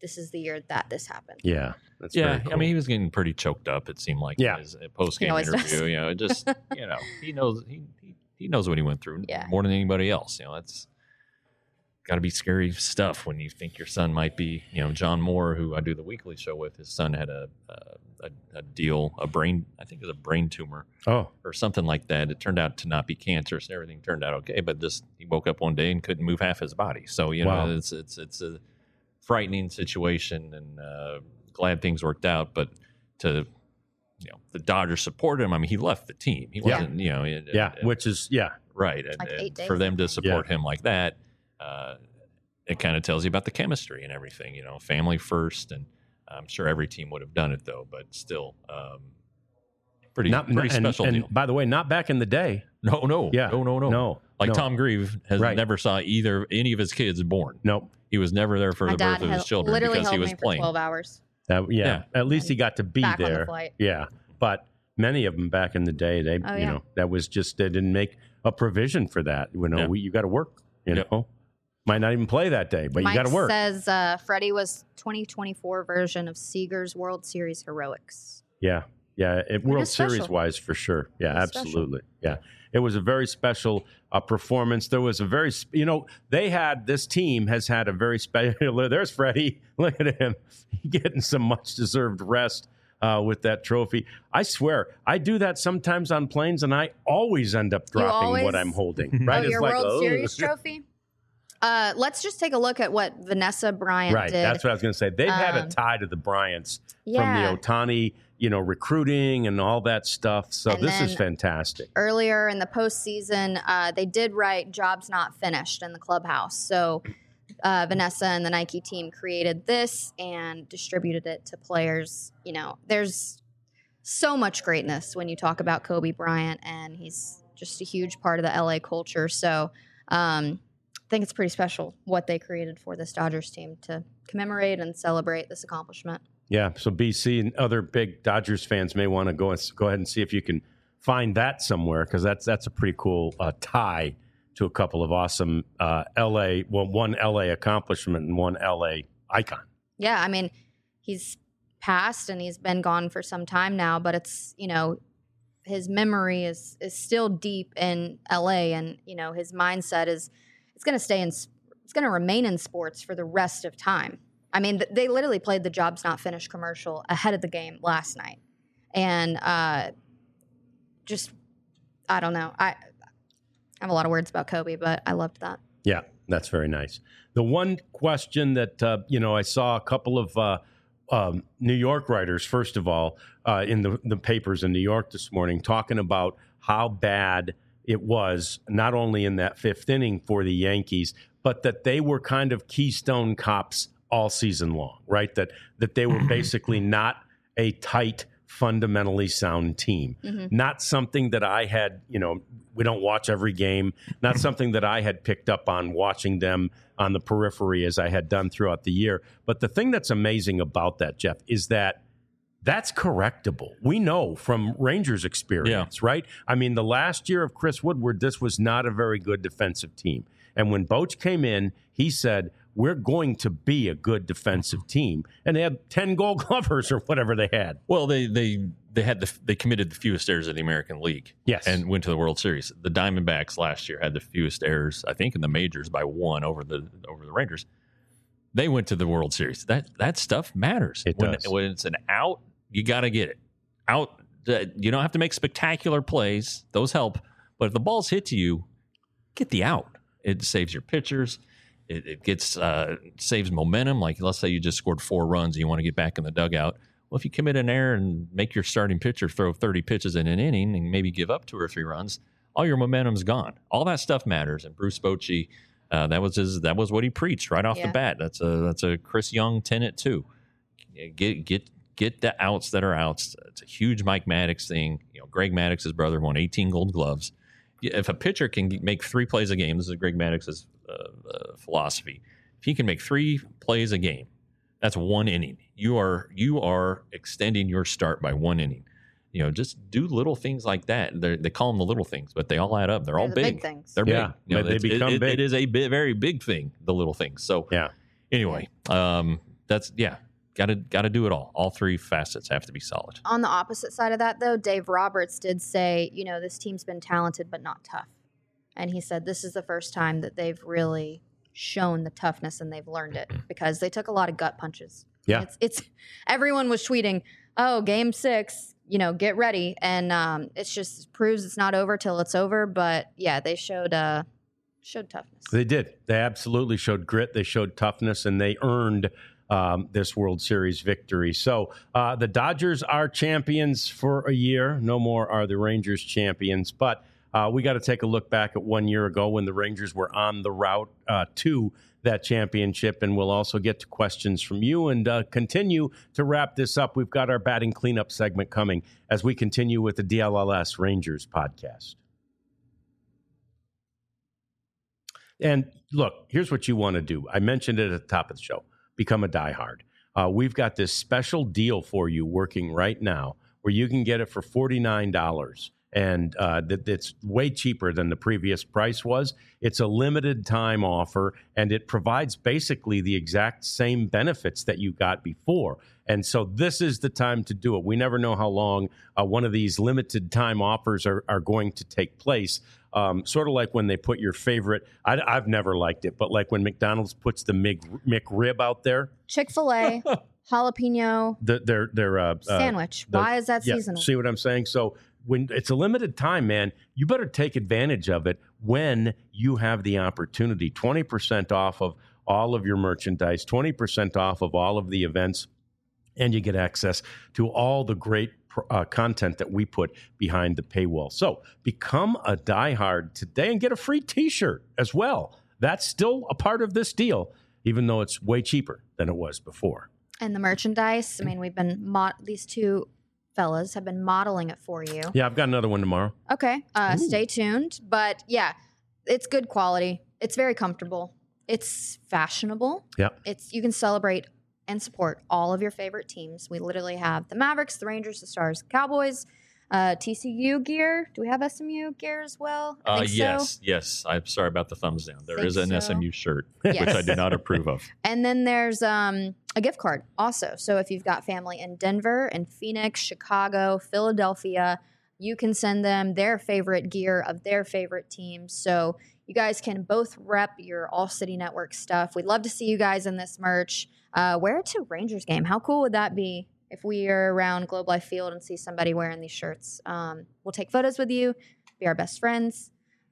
this is the year that this happened. Yeah. That's yeah, very cool. I mean, he was getting pretty choked up. It seemed like Yeah. in his post game always interview. does. You know, it just you know he knows he, he he knows what he went through Yeah. more than anybody else. You know, that's got to be scary stuff when you think your son might be. You know, John Moore, who I do the weekly show with, his son had a a, a deal, a brain, I think it was a brain tumor Oh, or something like that. It turned out to not be cancerous, and everything turned out okay. But just he woke up one day and couldn't move half his body. So you know, Wow. it's it's it's a frightening situation, and uh, glad things worked out. But to you know, the Dodgers supported him. I mean, he left the team. He Yeah. wasn't, you know, it, yeah. it- which is, yeah. right. And, Like and eight days, for them I to think. support him like that, uh, it kind of tells you about the chemistry and everything. You know, family first, and I'm sure every team would have done it though. But still, um, pretty Not, pretty and, special and deal. by the way, not back in the day. No, no, Yeah. no, no, no, No. Like no, Tom Grieve has Right. never saw either any of his kids born. No. He was never there for My the dad birth of his held- children literally because held he was me for playing. twelve hours. Uh, yeah, Yeah. At least he got to be Back on the there. flight. Yeah. But many of them back in the day, they, Oh, you yeah. know, that was just, they didn't make a provision for that. You know, Yeah. we, you got to work, you Yep. know, might not even play that day, but Mike you got to work. says uh, Freddie was twenty twenty-four version of Seager's World Series heroics. Yeah. Yeah. It, World is special. Series wise, for sure. Yeah, It is special. absolutely. Yeah. It was a very special uh, performance. There was a very, sp- you know, they had, this team has had a very special, there's Freddie. Look at him getting some much deserved rest uh, with that trophy. I swear, I do that sometimes on planes and I always end up dropping always- what I'm holding. Right? Oh, It's your like, World oh. Series trophy? Uh, let's just take a look at what Vanessa Bryant Right. did. That's what I was going to say. They've had a Um, tie to the Bryants yeah. from the Ohtani, you know, recruiting and all that stuff. So And this is then- fantastic. Earlier in the postseason, uh, they did write "Jobs Not Finished" in the clubhouse. So uh, Vanessa and the Nike team created this and distributed it to players. You know, there's so much greatness when you talk about Kobe Bryant, and he's just a huge part of the L A culture. So um, I think it's pretty special what they created for this Dodgers team to commemorate and celebrate this accomplishment. Yeah, so B C and other big Dodgers fans may want to go and go ahead and see if you can find that somewhere, because that's that's a pretty cool uh, tie to a couple of awesome uh, L A, well, one L A accomplishment and one L A icon. Yeah, I mean, he's passed and he's been gone for some time now, but it's, you know, his memory is is still deep in L A, and, you know, his mindset is it's going to stay in it's going to remain in sports for the rest of time. I mean, th- they literally played the Jobs Not Finished commercial ahead of the game last night. And uh, just, I don't know. I, I have a lot of words about Kobe, but I loved that. Yeah, that's very nice. The one question that, uh, you know, I saw a couple of uh, um, New York writers, first of all, uh, in the, the papers in New York this morning, talking about how bad it was, not only in that fifth inning for the Yankees, but that they were kind of Keystone Cops all season long, right? That that they were basically not a tight, fundamentally sound team. Mm-hmm. Not something that I had, you know, we don't watch every game, not something that I had picked up on watching them on the periphery as I had done throughout the year. But the thing that's amazing about that, Jeff, is that that's correctable. We know from Rangers' experience, right? I mean, the last year of Chris Woodward, this was not a very good defensive team. And when Boch came in, he said, we're going to be a good defensive team. And they had ten Gold Glovers or whatever they had. Well, they they they had the they committed the fewest errors in the American League. Yes. And went to the World Series. The Diamondbacks last year had the fewest errors, I think, in the majors by one over the over the Rangers. They went to the World Series. That that stuff matters. It when, does. when it's an out, you got to get it out. uh, You don't have to make spectacular plays; those help. But if the ball's hit to you, get the out. It saves your pitchers. It, it gets uh, saves momentum. Like, let's say you just scored four runs and you want to get back in the dugout. Well, if you commit an error and make your starting pitcher throw thirty pitches in an inning and maybe give up two or three runs, all your momentum's gone. All that stuff matters. And Bruce Bochy, uh, that was his. That was what he preached right off Yeah. the bat. That's a that's a Chris Young tenet too. Get get get the outs that are outs. It's a huge Mike Maddox thing. You know, Greg Maddox's brother won eighteen Gold Gloves. If a pitcher can make three plays a game, this is Greg Maddox's uh, uh, philosophy. If he can make three plays a game, that's one inning. You are you are extending your start by one inning. You know, just do little things like that. They're, they call them the little things, but they all add up. They're, They're all the big. big things. They're Yeah, big. You know, but they it's- it- become it- big. It is a bi- very big thing. The little things. So Yeah. anyway, um, that's yeah. Got to got to do it all. All three facets have to be solid. On the opposite side of that, though, Dave Roberts did say, you know, this team's been talented but not tough. And he said this is the first time that they've really shown the toughness and they've learned it because they took a lot of gut punches. Yeah. It's, it's everyone was tweeting, oh, game six, you know, get ready. And um, it's just proves it's not over till it's over. But, yeah, they showed uh, showed toughness. They did. They absolutely showed grit. They showed toughness, and they earned Um, this World Series victory. So uh, the Dodgers are champions for a year. No more are the Rangers champions. But uh, we got to take a look back at one year ago when the Rangers were on the route uh, to that championship. And we'll also get to questions from you and uh, continue to wrap this up. We've got our batting cleanup segment coming as we continue with the D L L S Rangers podcast. And look, here's what you want to do. I mentioned it at the top of the show. Become a diehard. Uh, we've got this special deal for you working right now where you can get it for forty-nine dollars. And uh, that it's way cheaper than the previous price was. It's a limited time offer, and it provides basically the exact same benefits that you got before. And so this is the time to do it. We never know how long uh, one of these limited time offers are, are going to take place. Um, sort of like when they put your favorite, I, I've never liked it, but like when McDonald's puts the Mc, McRib out there. Chick-fil-A, jalapeno the, their, their, uh, sandwich. Uh, the, Why is that yeah, seasonal? See what I'm saying? So when it's a limited time, man, you better take advantage of it when you have the opportunity. twenty percent off of all of your merchandise, twenty percent off of all of the events, and you get access to all the great uh, content that we put behind the paywall. So become a diehard today and get a free T-shirt as well. That's still a part of this deal, even though it's way cheaper than it was before. And the merchandise, I mean, we've been, mo- these two fellas have been modeling it for you. Yeah, I've got another one tomorrow. Okay, uh, stay tuned. But yeah, it's good quality. It's very comfortable. It's fashionable. Yeah. It's you can celebrate and support all of your favorite teams. We literally have the Mavericks, the Rangers, the Stars, the Cowboys, uh, T C U gear. Do we have S M U gear as well? I Uh, think yes, so. yes. I'm sorry about the thumbs down. There Think is an so. S M U shirt, Yes. which I do not approve of. And then there's um, a gift card also. So if you've got family in Denver and Phoenix, Chicago, Philadelphia, you can send them their favorite gear of their favorite teams. So you guys can both rep your All City Network stuff. We'd love to see you guys in this merch. Uh, wear it to Rangers game. How cool would that be if we are around Globe Life Field and see somebody wearing these shirts? Um, we'll take photos with you, be our best friends.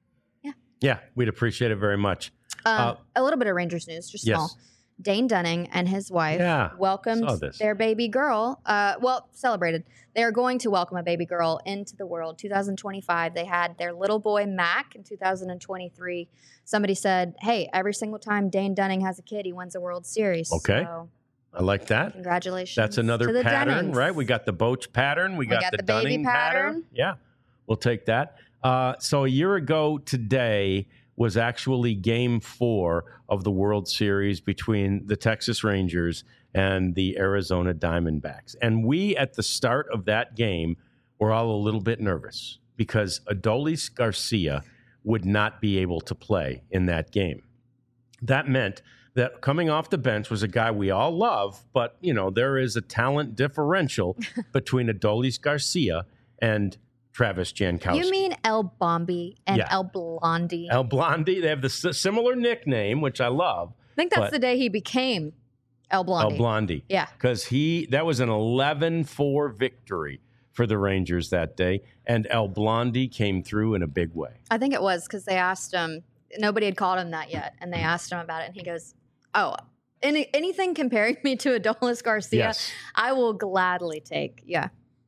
Yeah, we'd appreciate it very much. Um, Uh, a little bit of Rangers news, just yes. small. Dane Dunning and his wife Yeah, welcomed saw this. their baby girl. Uh, well, celebrated. They are going to welcome a baby girl into the world. two thousand twenty-five. They had their little boy Mac in two thousand twenty-three. Somebody said, "Hey, every single time Dane Dunning has a kid, he wins a World Series." Okay. So, I like that. congratulations. That's to another the pattern, Dennings. right? We got the Boch pattern. We, We got, got the, the baby Dunning pattern. pattern. Yeah, we'll take that. Uh, so a year ago today was actually game four of the World Series between the Texas Rangers and the Arizona Diamondbacks. And we, at the start of that game, were all a little bit nervous because Adolis Garcia would not be able to play in that game. That meant that coming off the bench was a guy we all love, but, you know, there is a talent differential between Adolis Garcia and Travis Jankowski. You mean El Bombi and Yeah. El Blondie? El Blondie? They have the s- similar nickname, which I love. I think that's but- the day he became El Blondie. El Blondie. Yeah. Because he that was an eleven four victory for the Rangers that day, and El Blondie came through in a big way. I think it was because they asked him, nobody had called him that yet, and they asked him about it, and he goes, oh, any, anything comparing me to Adolis Garcia, Yes. I will gladly take. Yeah.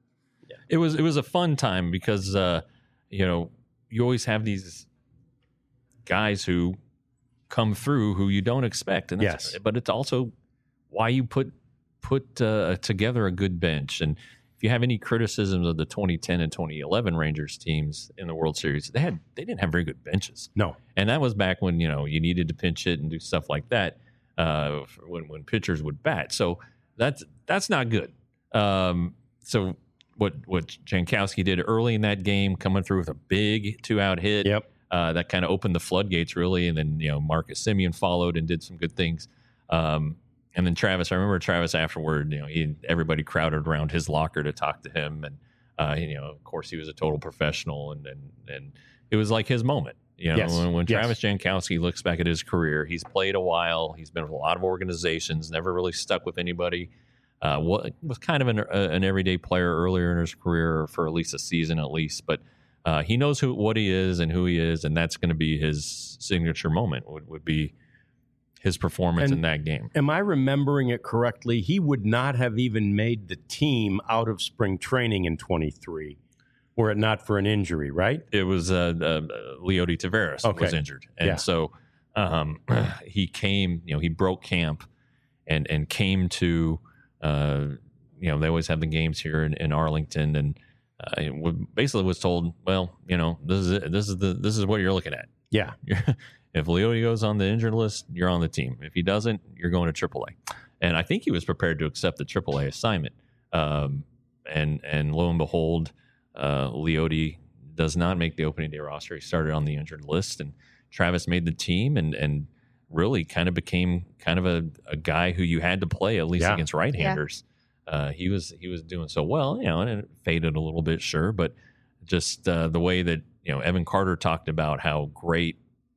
It was it was a fun time because uh, you know you always have these guys who come through who you don't expect, and that's, Yes. but it's also why you put put uh, together a good bench. And if you have any criticisms of the twenty ten and twenty eleven Rangers teams in the World Series, they had they didn't have very good benches, No. and that was back when you know you needed to pinch it and do stuff like that uh, when when pitchers would bat. So that's that's not good. Um, so. What what Jankowski did early in that game, coming through with a big two out hit, Yep. uh, that kind of opened the floodgates really, and then you know Marcus Semien followed and did some good things. Um, and then Travis, I remember Travis afterward, you know, he, everybody crowded around his locker to talk to him. And, uh, you know, of course he was a total professional, and, and, and it was like his moment. You know, Yes. when, when Yes. Travis Jankowski looks back at his career, he's played a while. He's been with a lot of organizations, never really stuck with anybody. Uh, what was kind of an, uh, an everyday player earlier in his career for at least a season, at least. But uh, he knows who what he is and who he is, and that's going to be his signature moment. Would would be his performance And in that game. Am I remembering it correctly? He would not have even made the team out of spring training in twenty-three, were it not for an injury, right? It was uh, uh, Leody Taveras Okay. was injured, and Yeah. so um, he came. You know, he broke camp and and came to. Uh, you know, they always have the games here in, in Arlington, and uh, it would- basically was told, well, you know, this is it. this is the this is what you're looking at. Yeah. If Leody goes on the injured list, you're on the team. If he doesn't, you're going to triple A. And I think he was prepared to accept the triple A assignment. Um, and and lo and behold, uh, Leody does not make the opening day roster. He started on the injured list, and Travis made the team, and and really kind of became kind of a, a guy who you had to play at least Yeah. against right-handers. Uh, he was he was doing so well, you know, and it faded a little bit, sure, but just uh, the way that, you know, Evan Carter talked about how great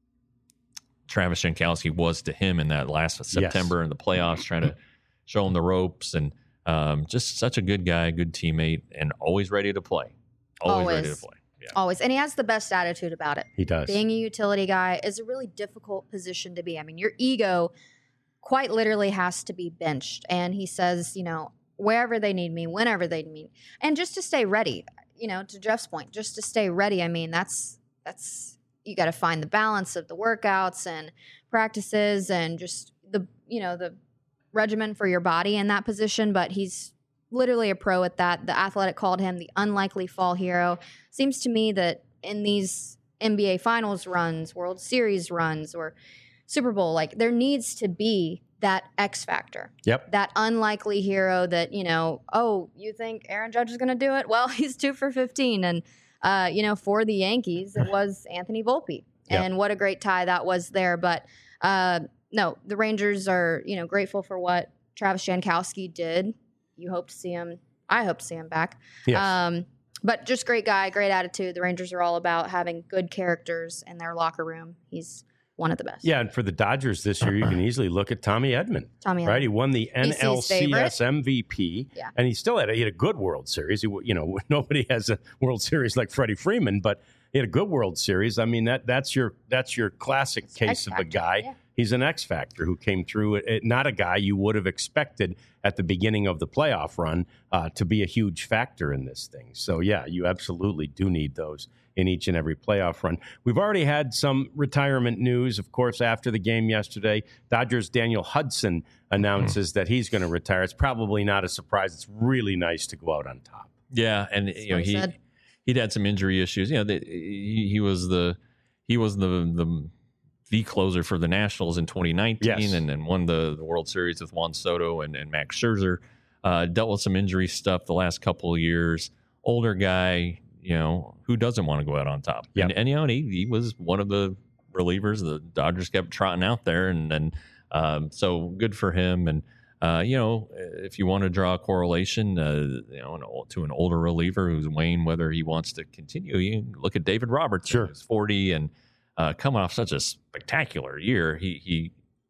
Travis Jankowski was to him in that last September in the playoffs, trying to show him the ropes, and um, just such a good guy, good teammate, and always ready to play. Always, ready to Always. play. Yeah. Always. And he has the best attitude about it. He does. Being a utility guy is a really difficult position to be. I mean, your ego quite literally has to be benched. And he says, you know, wherever they need me, whenever they need me, and just to stay ready, you know, to Jeff's point, just to stay ready. I mean, that's, that's, you got to find the balance of the workouts and practices and just the, you know, the regimen for your body in that position. But he's literally a pro at that. The Athletic called him the unlikely fall hero. Seems to me that in these N B A Finals runs, World Series runs, or Super Bowl, like there needs to be that X factor. Yep. That unlikely hero that, you know, oh, you think Aaron Judge is going to do it? Well, he's two for fifteen. And, uh, you know, for the Yankees, it was Anthony Volpe. Yep. And what a great tie that was there. But uh, no, the Rangers are, you know, grateful for what Travis Jankowski did. You hope to see him. I hope to see him back. Yes. Um, but just great guy, great attitude. The Rangers are all about having good characters in their locker room. He's one of the best. Yeah, and for the Dodgers this year, you can easily look at Tommy Edman. Tommy Right, Edman. he won the N L C S favorite. M V P, Yeah. and he still had a, he had a good World Series. He, you know, nobody has a World Series like Freddie Freeman, but he had a good World Series. I mean, that that's your that's your classic It's case X of a factor, guy. yeah. He's an X factor who came through. It, not a guy you would have expected at the beginning of the playoff run uh, to be a huge factor in this thing. So yeah, you absolutely do need those in each and every playoff run. We've already had some retirement news, of course, after the game yesterday. Dodgers' Daniel Hudson announces that he's going to retire. It's probably not a surprise. It's really nice to go out on top. Yeah, and you know what he he said. he'd had some injury issues. You know, the, he, he was the he was the the the closer for the Nationals in twenty nineteen, Yes. and, and won the, the World Series with Juan Soto and, and Max Scherzer. Uh, dealt with some injury stuff the last couple of years. Older guy, you know, who doesn't want to go out on top? Yep. And, and you know, and he, he was one of the relievers the Dodgers kept trotting out there, and and um, so good for him. And uh, you know, if you want to draw a correlation, uh, you know, an, ol- to an older reliever who's weighing whether he wants to continue, you can look at David Robertson, Sure. who's forty and uh, coming off such a spectacular year. He he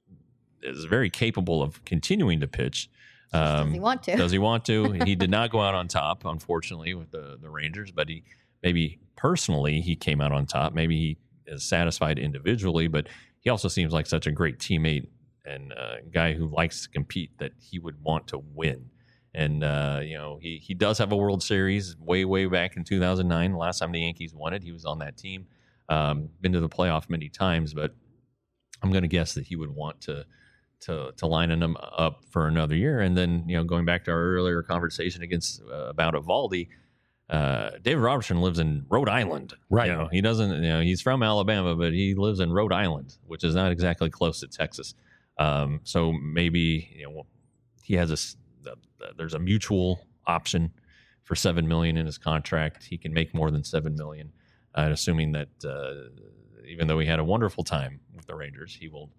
is very capable of continuing to pitch. Does he want to? Does he want to? He did not go out on top, unfortunately, with the, the Rangers, but he maybe personally he came out on top. Maybe he is satisfied individually, but he also seems like such a great teammate and a guy who likes to compete that he would want to win. And, uh, you know, he, he does have a World Series way, way back in two thousand nine. The last time the Yankees won it, he was on that team. Um, been to the playoff many times, but I'm going to guess that he would want to to to lining them up for another year. And then, you know, going back to our earlier conversation against uh, about Evaldi, uh, David Robertson lives in Rhode Island. Right. You know, he doesn't, you know, he's from Alabama, but he lives in Rhode Island, which is not exactly close to Texas. Um, so maybe, you know, he has a, s- uh, there's a mutual option for seven million dollars in his contract. He can make more than seven million dollars, uh, assuming that uh, even though he had a wonderful time with the Rangers, he will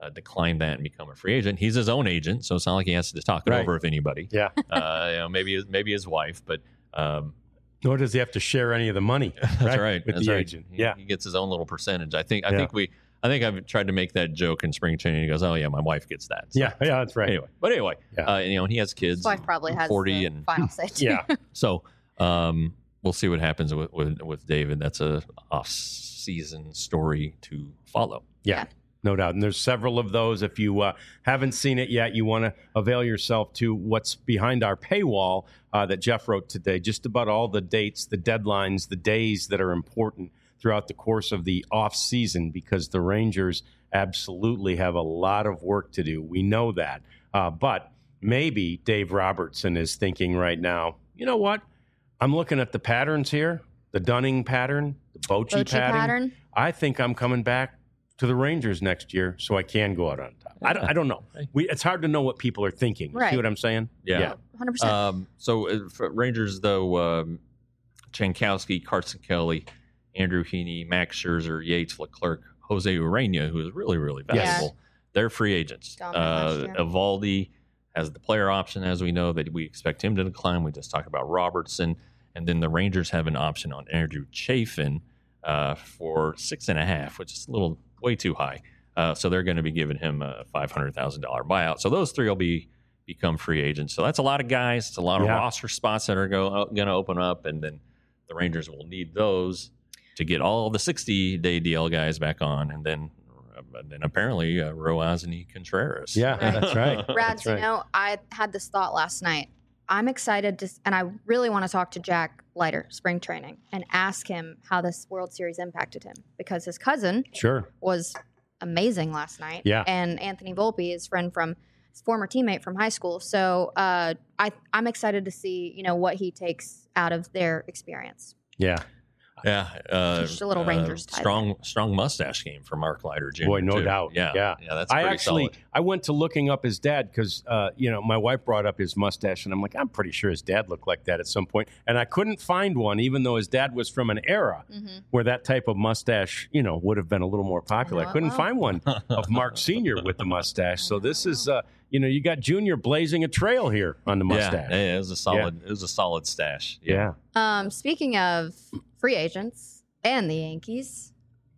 uh, decline that and become a free agent. He's his own agent, so it's not like he has to talk it Right. over with anybody. Yeah. uh, you know, maybe maybe his wife, but um, Nor does he have to share any of the money. that's right, right. with that's the right. agent. He, Yeah. he gets his own little percentage. I think. I Yeah. think we. I think I've tried to make that joke in spring training. He goes, "Oh yeah, my wife gets that." So, Yeah. Yeah. That's right. Anyway, but anyway, Yeah. uh, you know, and he has kids. His wife probably has forty the and final say. too. Yeah. so um, we'll see what happens with, with with David. That's a off-season story to follow. Yeah, Yeah. no doubt. And there's several of those. If you uh, haven't seen it yet, you want to avail yourself to what's behind our paywall uh, that Jeff wrote today. Just about all the dates, the deadlines, the days that are important throughout the course of the off season, because the Rangers absolutely have a lot of work to do. We know that. Uh, but maybe Dave Robertson is thinking right now, you know what? I'm looking at the patterns here, the Dunning pattern, the Bochy, Bochy pattern. pattern. I think I'm coming back to the Rangers next year so I can go out on top. I, don't, I don't know. We, it's hard to know what people are thinking. You Right. see what I'm saying? Yeah. one hundred percent. Um, so uh, for Rangers, though, um, Jankowski, Carson Kelly, Andrew Heaney, Max Scherzer, Yates, Leclerc, Jose Urena, who is really, really Yes. valuable. They're free agents. Gone last Uh, year. Evaldi has the player option, as we know, that we expect him to decline. We just talked about Robertson. And then the Rangers have an option on Andrew Chafin uh, for six and a half, which is a little way too high. Uh, so they're going to be giving him a five hundred thousand dollars buyout. So those three will be become free agents. So that's a lot of guys. It's a lot of Yeah. roster spots that are go, going to open up. And then the Rangers will need those to get all the sixty-day D L guys back on. And then and then apparently uh, Roazni Contreras. Yeah, Right. that's right. Rads, That's right. you know, I had this thought last night. I'm excited to, and I really want to talk to Jack Leiter, spring training, and ask him how this World Series impacted him, because his cousin Sure. was amazing last night. Yeah. And Anthony Volpe, his friend from his former teammate from high school. So uh, I, I'm excited to see, you know, what he takes out of their experience. Yeah. Yeah, uh, Just a little Rangers type. strong, strong mustache game for Mark Leiter Junior Boy, no too. doubt. Yeah, Yeah. yeah, that's I pretty actually, solid. I went to looking up his dad because, uh, you know, my wife brought up his mustache, and I'm like, I'm pretty sure his dad looked like that at some point. And I couldn't find one, even though his dad was from an era Mm-hmm. where that type of mustache, you know, would have been a little more popular. know I, it couldn't well. find one of Mark Senior with the mustache. So I know this it is, uh, you know, you got Junior blazing a trail here on the mustache. Yeah, yeah, it was a solid, it was a solid stash. Yeah. Um, speaking of free agents and the Yankees,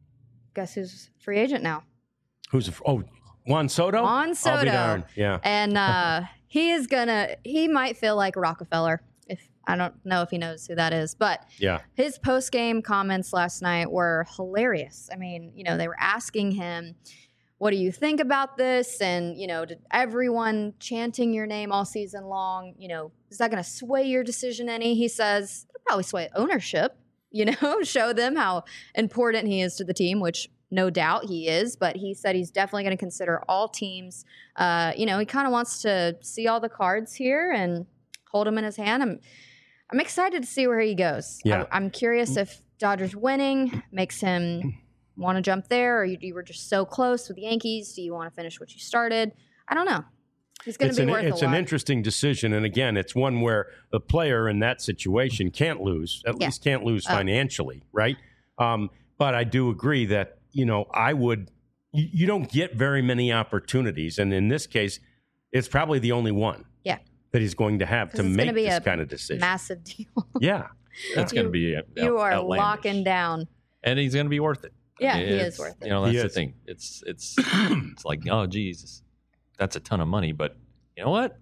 guess who's free agent now? Who's, a, oh, Juan Soto? Juan I'll be Soto. darned. Yeah. And uh, he is gonna. He might feel like Rockefeller. If I don't know if he knows who that is, but Yeah. his post game comments last night were hilarious. I mean, you know, they were asking him, "What do you think about this?" And you know, did everyone chanting your name all season long? You know, is that going to sway your decision any? He says it'll probably sway ownership. You know, show them how important he is to the team, which no doubt he is. But he said he's definitely going to consider all teams. Uh, you know, he kind of wants to see all the cards here and hold them in his hand. I'm, I'm excited to see where he goes. Yeah. I, I'm curious if Dodgers winning makes him want to jump there, or you, you were just so close with the Yankees. Do you want to finish what you started? I don't know. He's going It's to be an, worth it's a an lot. interesting decision. And again, it's one where the player in that situation can't lose, at Yeah. least can't lose Oh. financially, right? Um, but I do agree that, you know, I would, you, you don't get very many opportunities. And in this case, it's probably the only one Yeah. that he's going to have 'Cause to it's make gonna be this a kind of decision. Massive deal. yeah. That's You- going to be out- you are outlandish. locking down. and he's going to be worth it. Yeah, mean, he it's- is worth it. You know, that's He the is. thing. It's it's it's like, oh, geez, that's a ton of money. But you know what?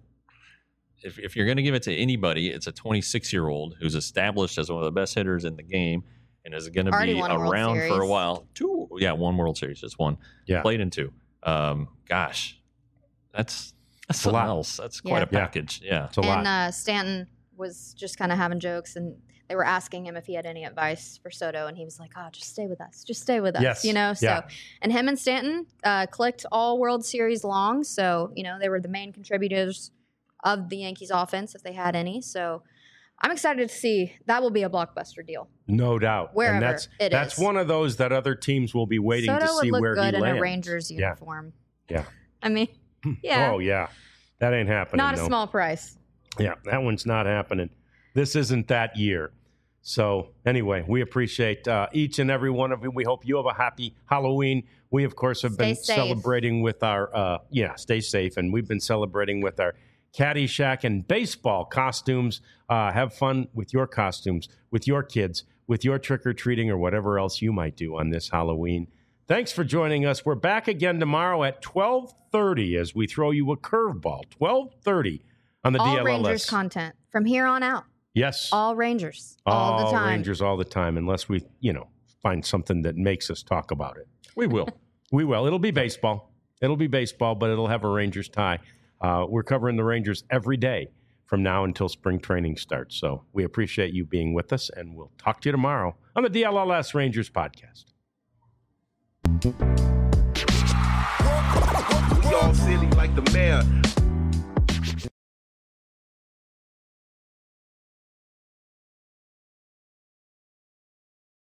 If if you're going to give it to anybody, it's a twenty-six year old who's established as one of the best hitters in the game and is going to Already be won a World around for a Series. while. Two, yeah, one World Series, just one. Yeah. Played in two. Um, gosh, that's that's a something lot. else. That's quite Yeah. a package. Yeah. It's a lot. And uh, Stanton was just kind of having jokes, and they were asking him if he had any advice for Soto, and he was like, "Oh, just stay with us, just stay with us," Yes. you know. So, Yeah. and him and Stanton uh, clicked all World Series long, so you know they were the main contributors of the Yankees offense if they had any. So, I'm excited to see that will be a blockbuster deal. No doubt. Wherever and that's, it that's is. one of those that other teams will be waiting Soto to see would look where good he in lands. a Rangers Yeah. uniform. Yeah. I mean, yeah, Oh, yeah. That ain't happening. not a no. small price. Yeah, that one's not happening. This isn't that year. So anyway, we appreciate uh, each and every one of you. We hope you have a happy Halloween. We, of course, have Stay been safe. celebrating with our, uh, yeah, stay safe. And we've been celebrating with our Caddyshack and baseball costumes. Uh, have fun with your costumes, with your kids, with your trick-or-treating or whatever else you might do on this Halloween. Thanks for joining us. We're back again tomorrow at twelve thirty as we throw you a curveball. twelve thirty on the All D L L S. Rangers content from here on out. Yes. All Rangers. All, all the time. Rangers all the time, unless we, you know, find something that makes us talk about it. We will. We will. It'll be baseball. It'll be baseball, but it'll have a Rangers tie. Uh, we're covering the Rangers every day from now until spring training starts. So we appreciate you being with us, and we'll talk to you tomorrow on the D L L S Rangers podcast. We all silly like the mayor.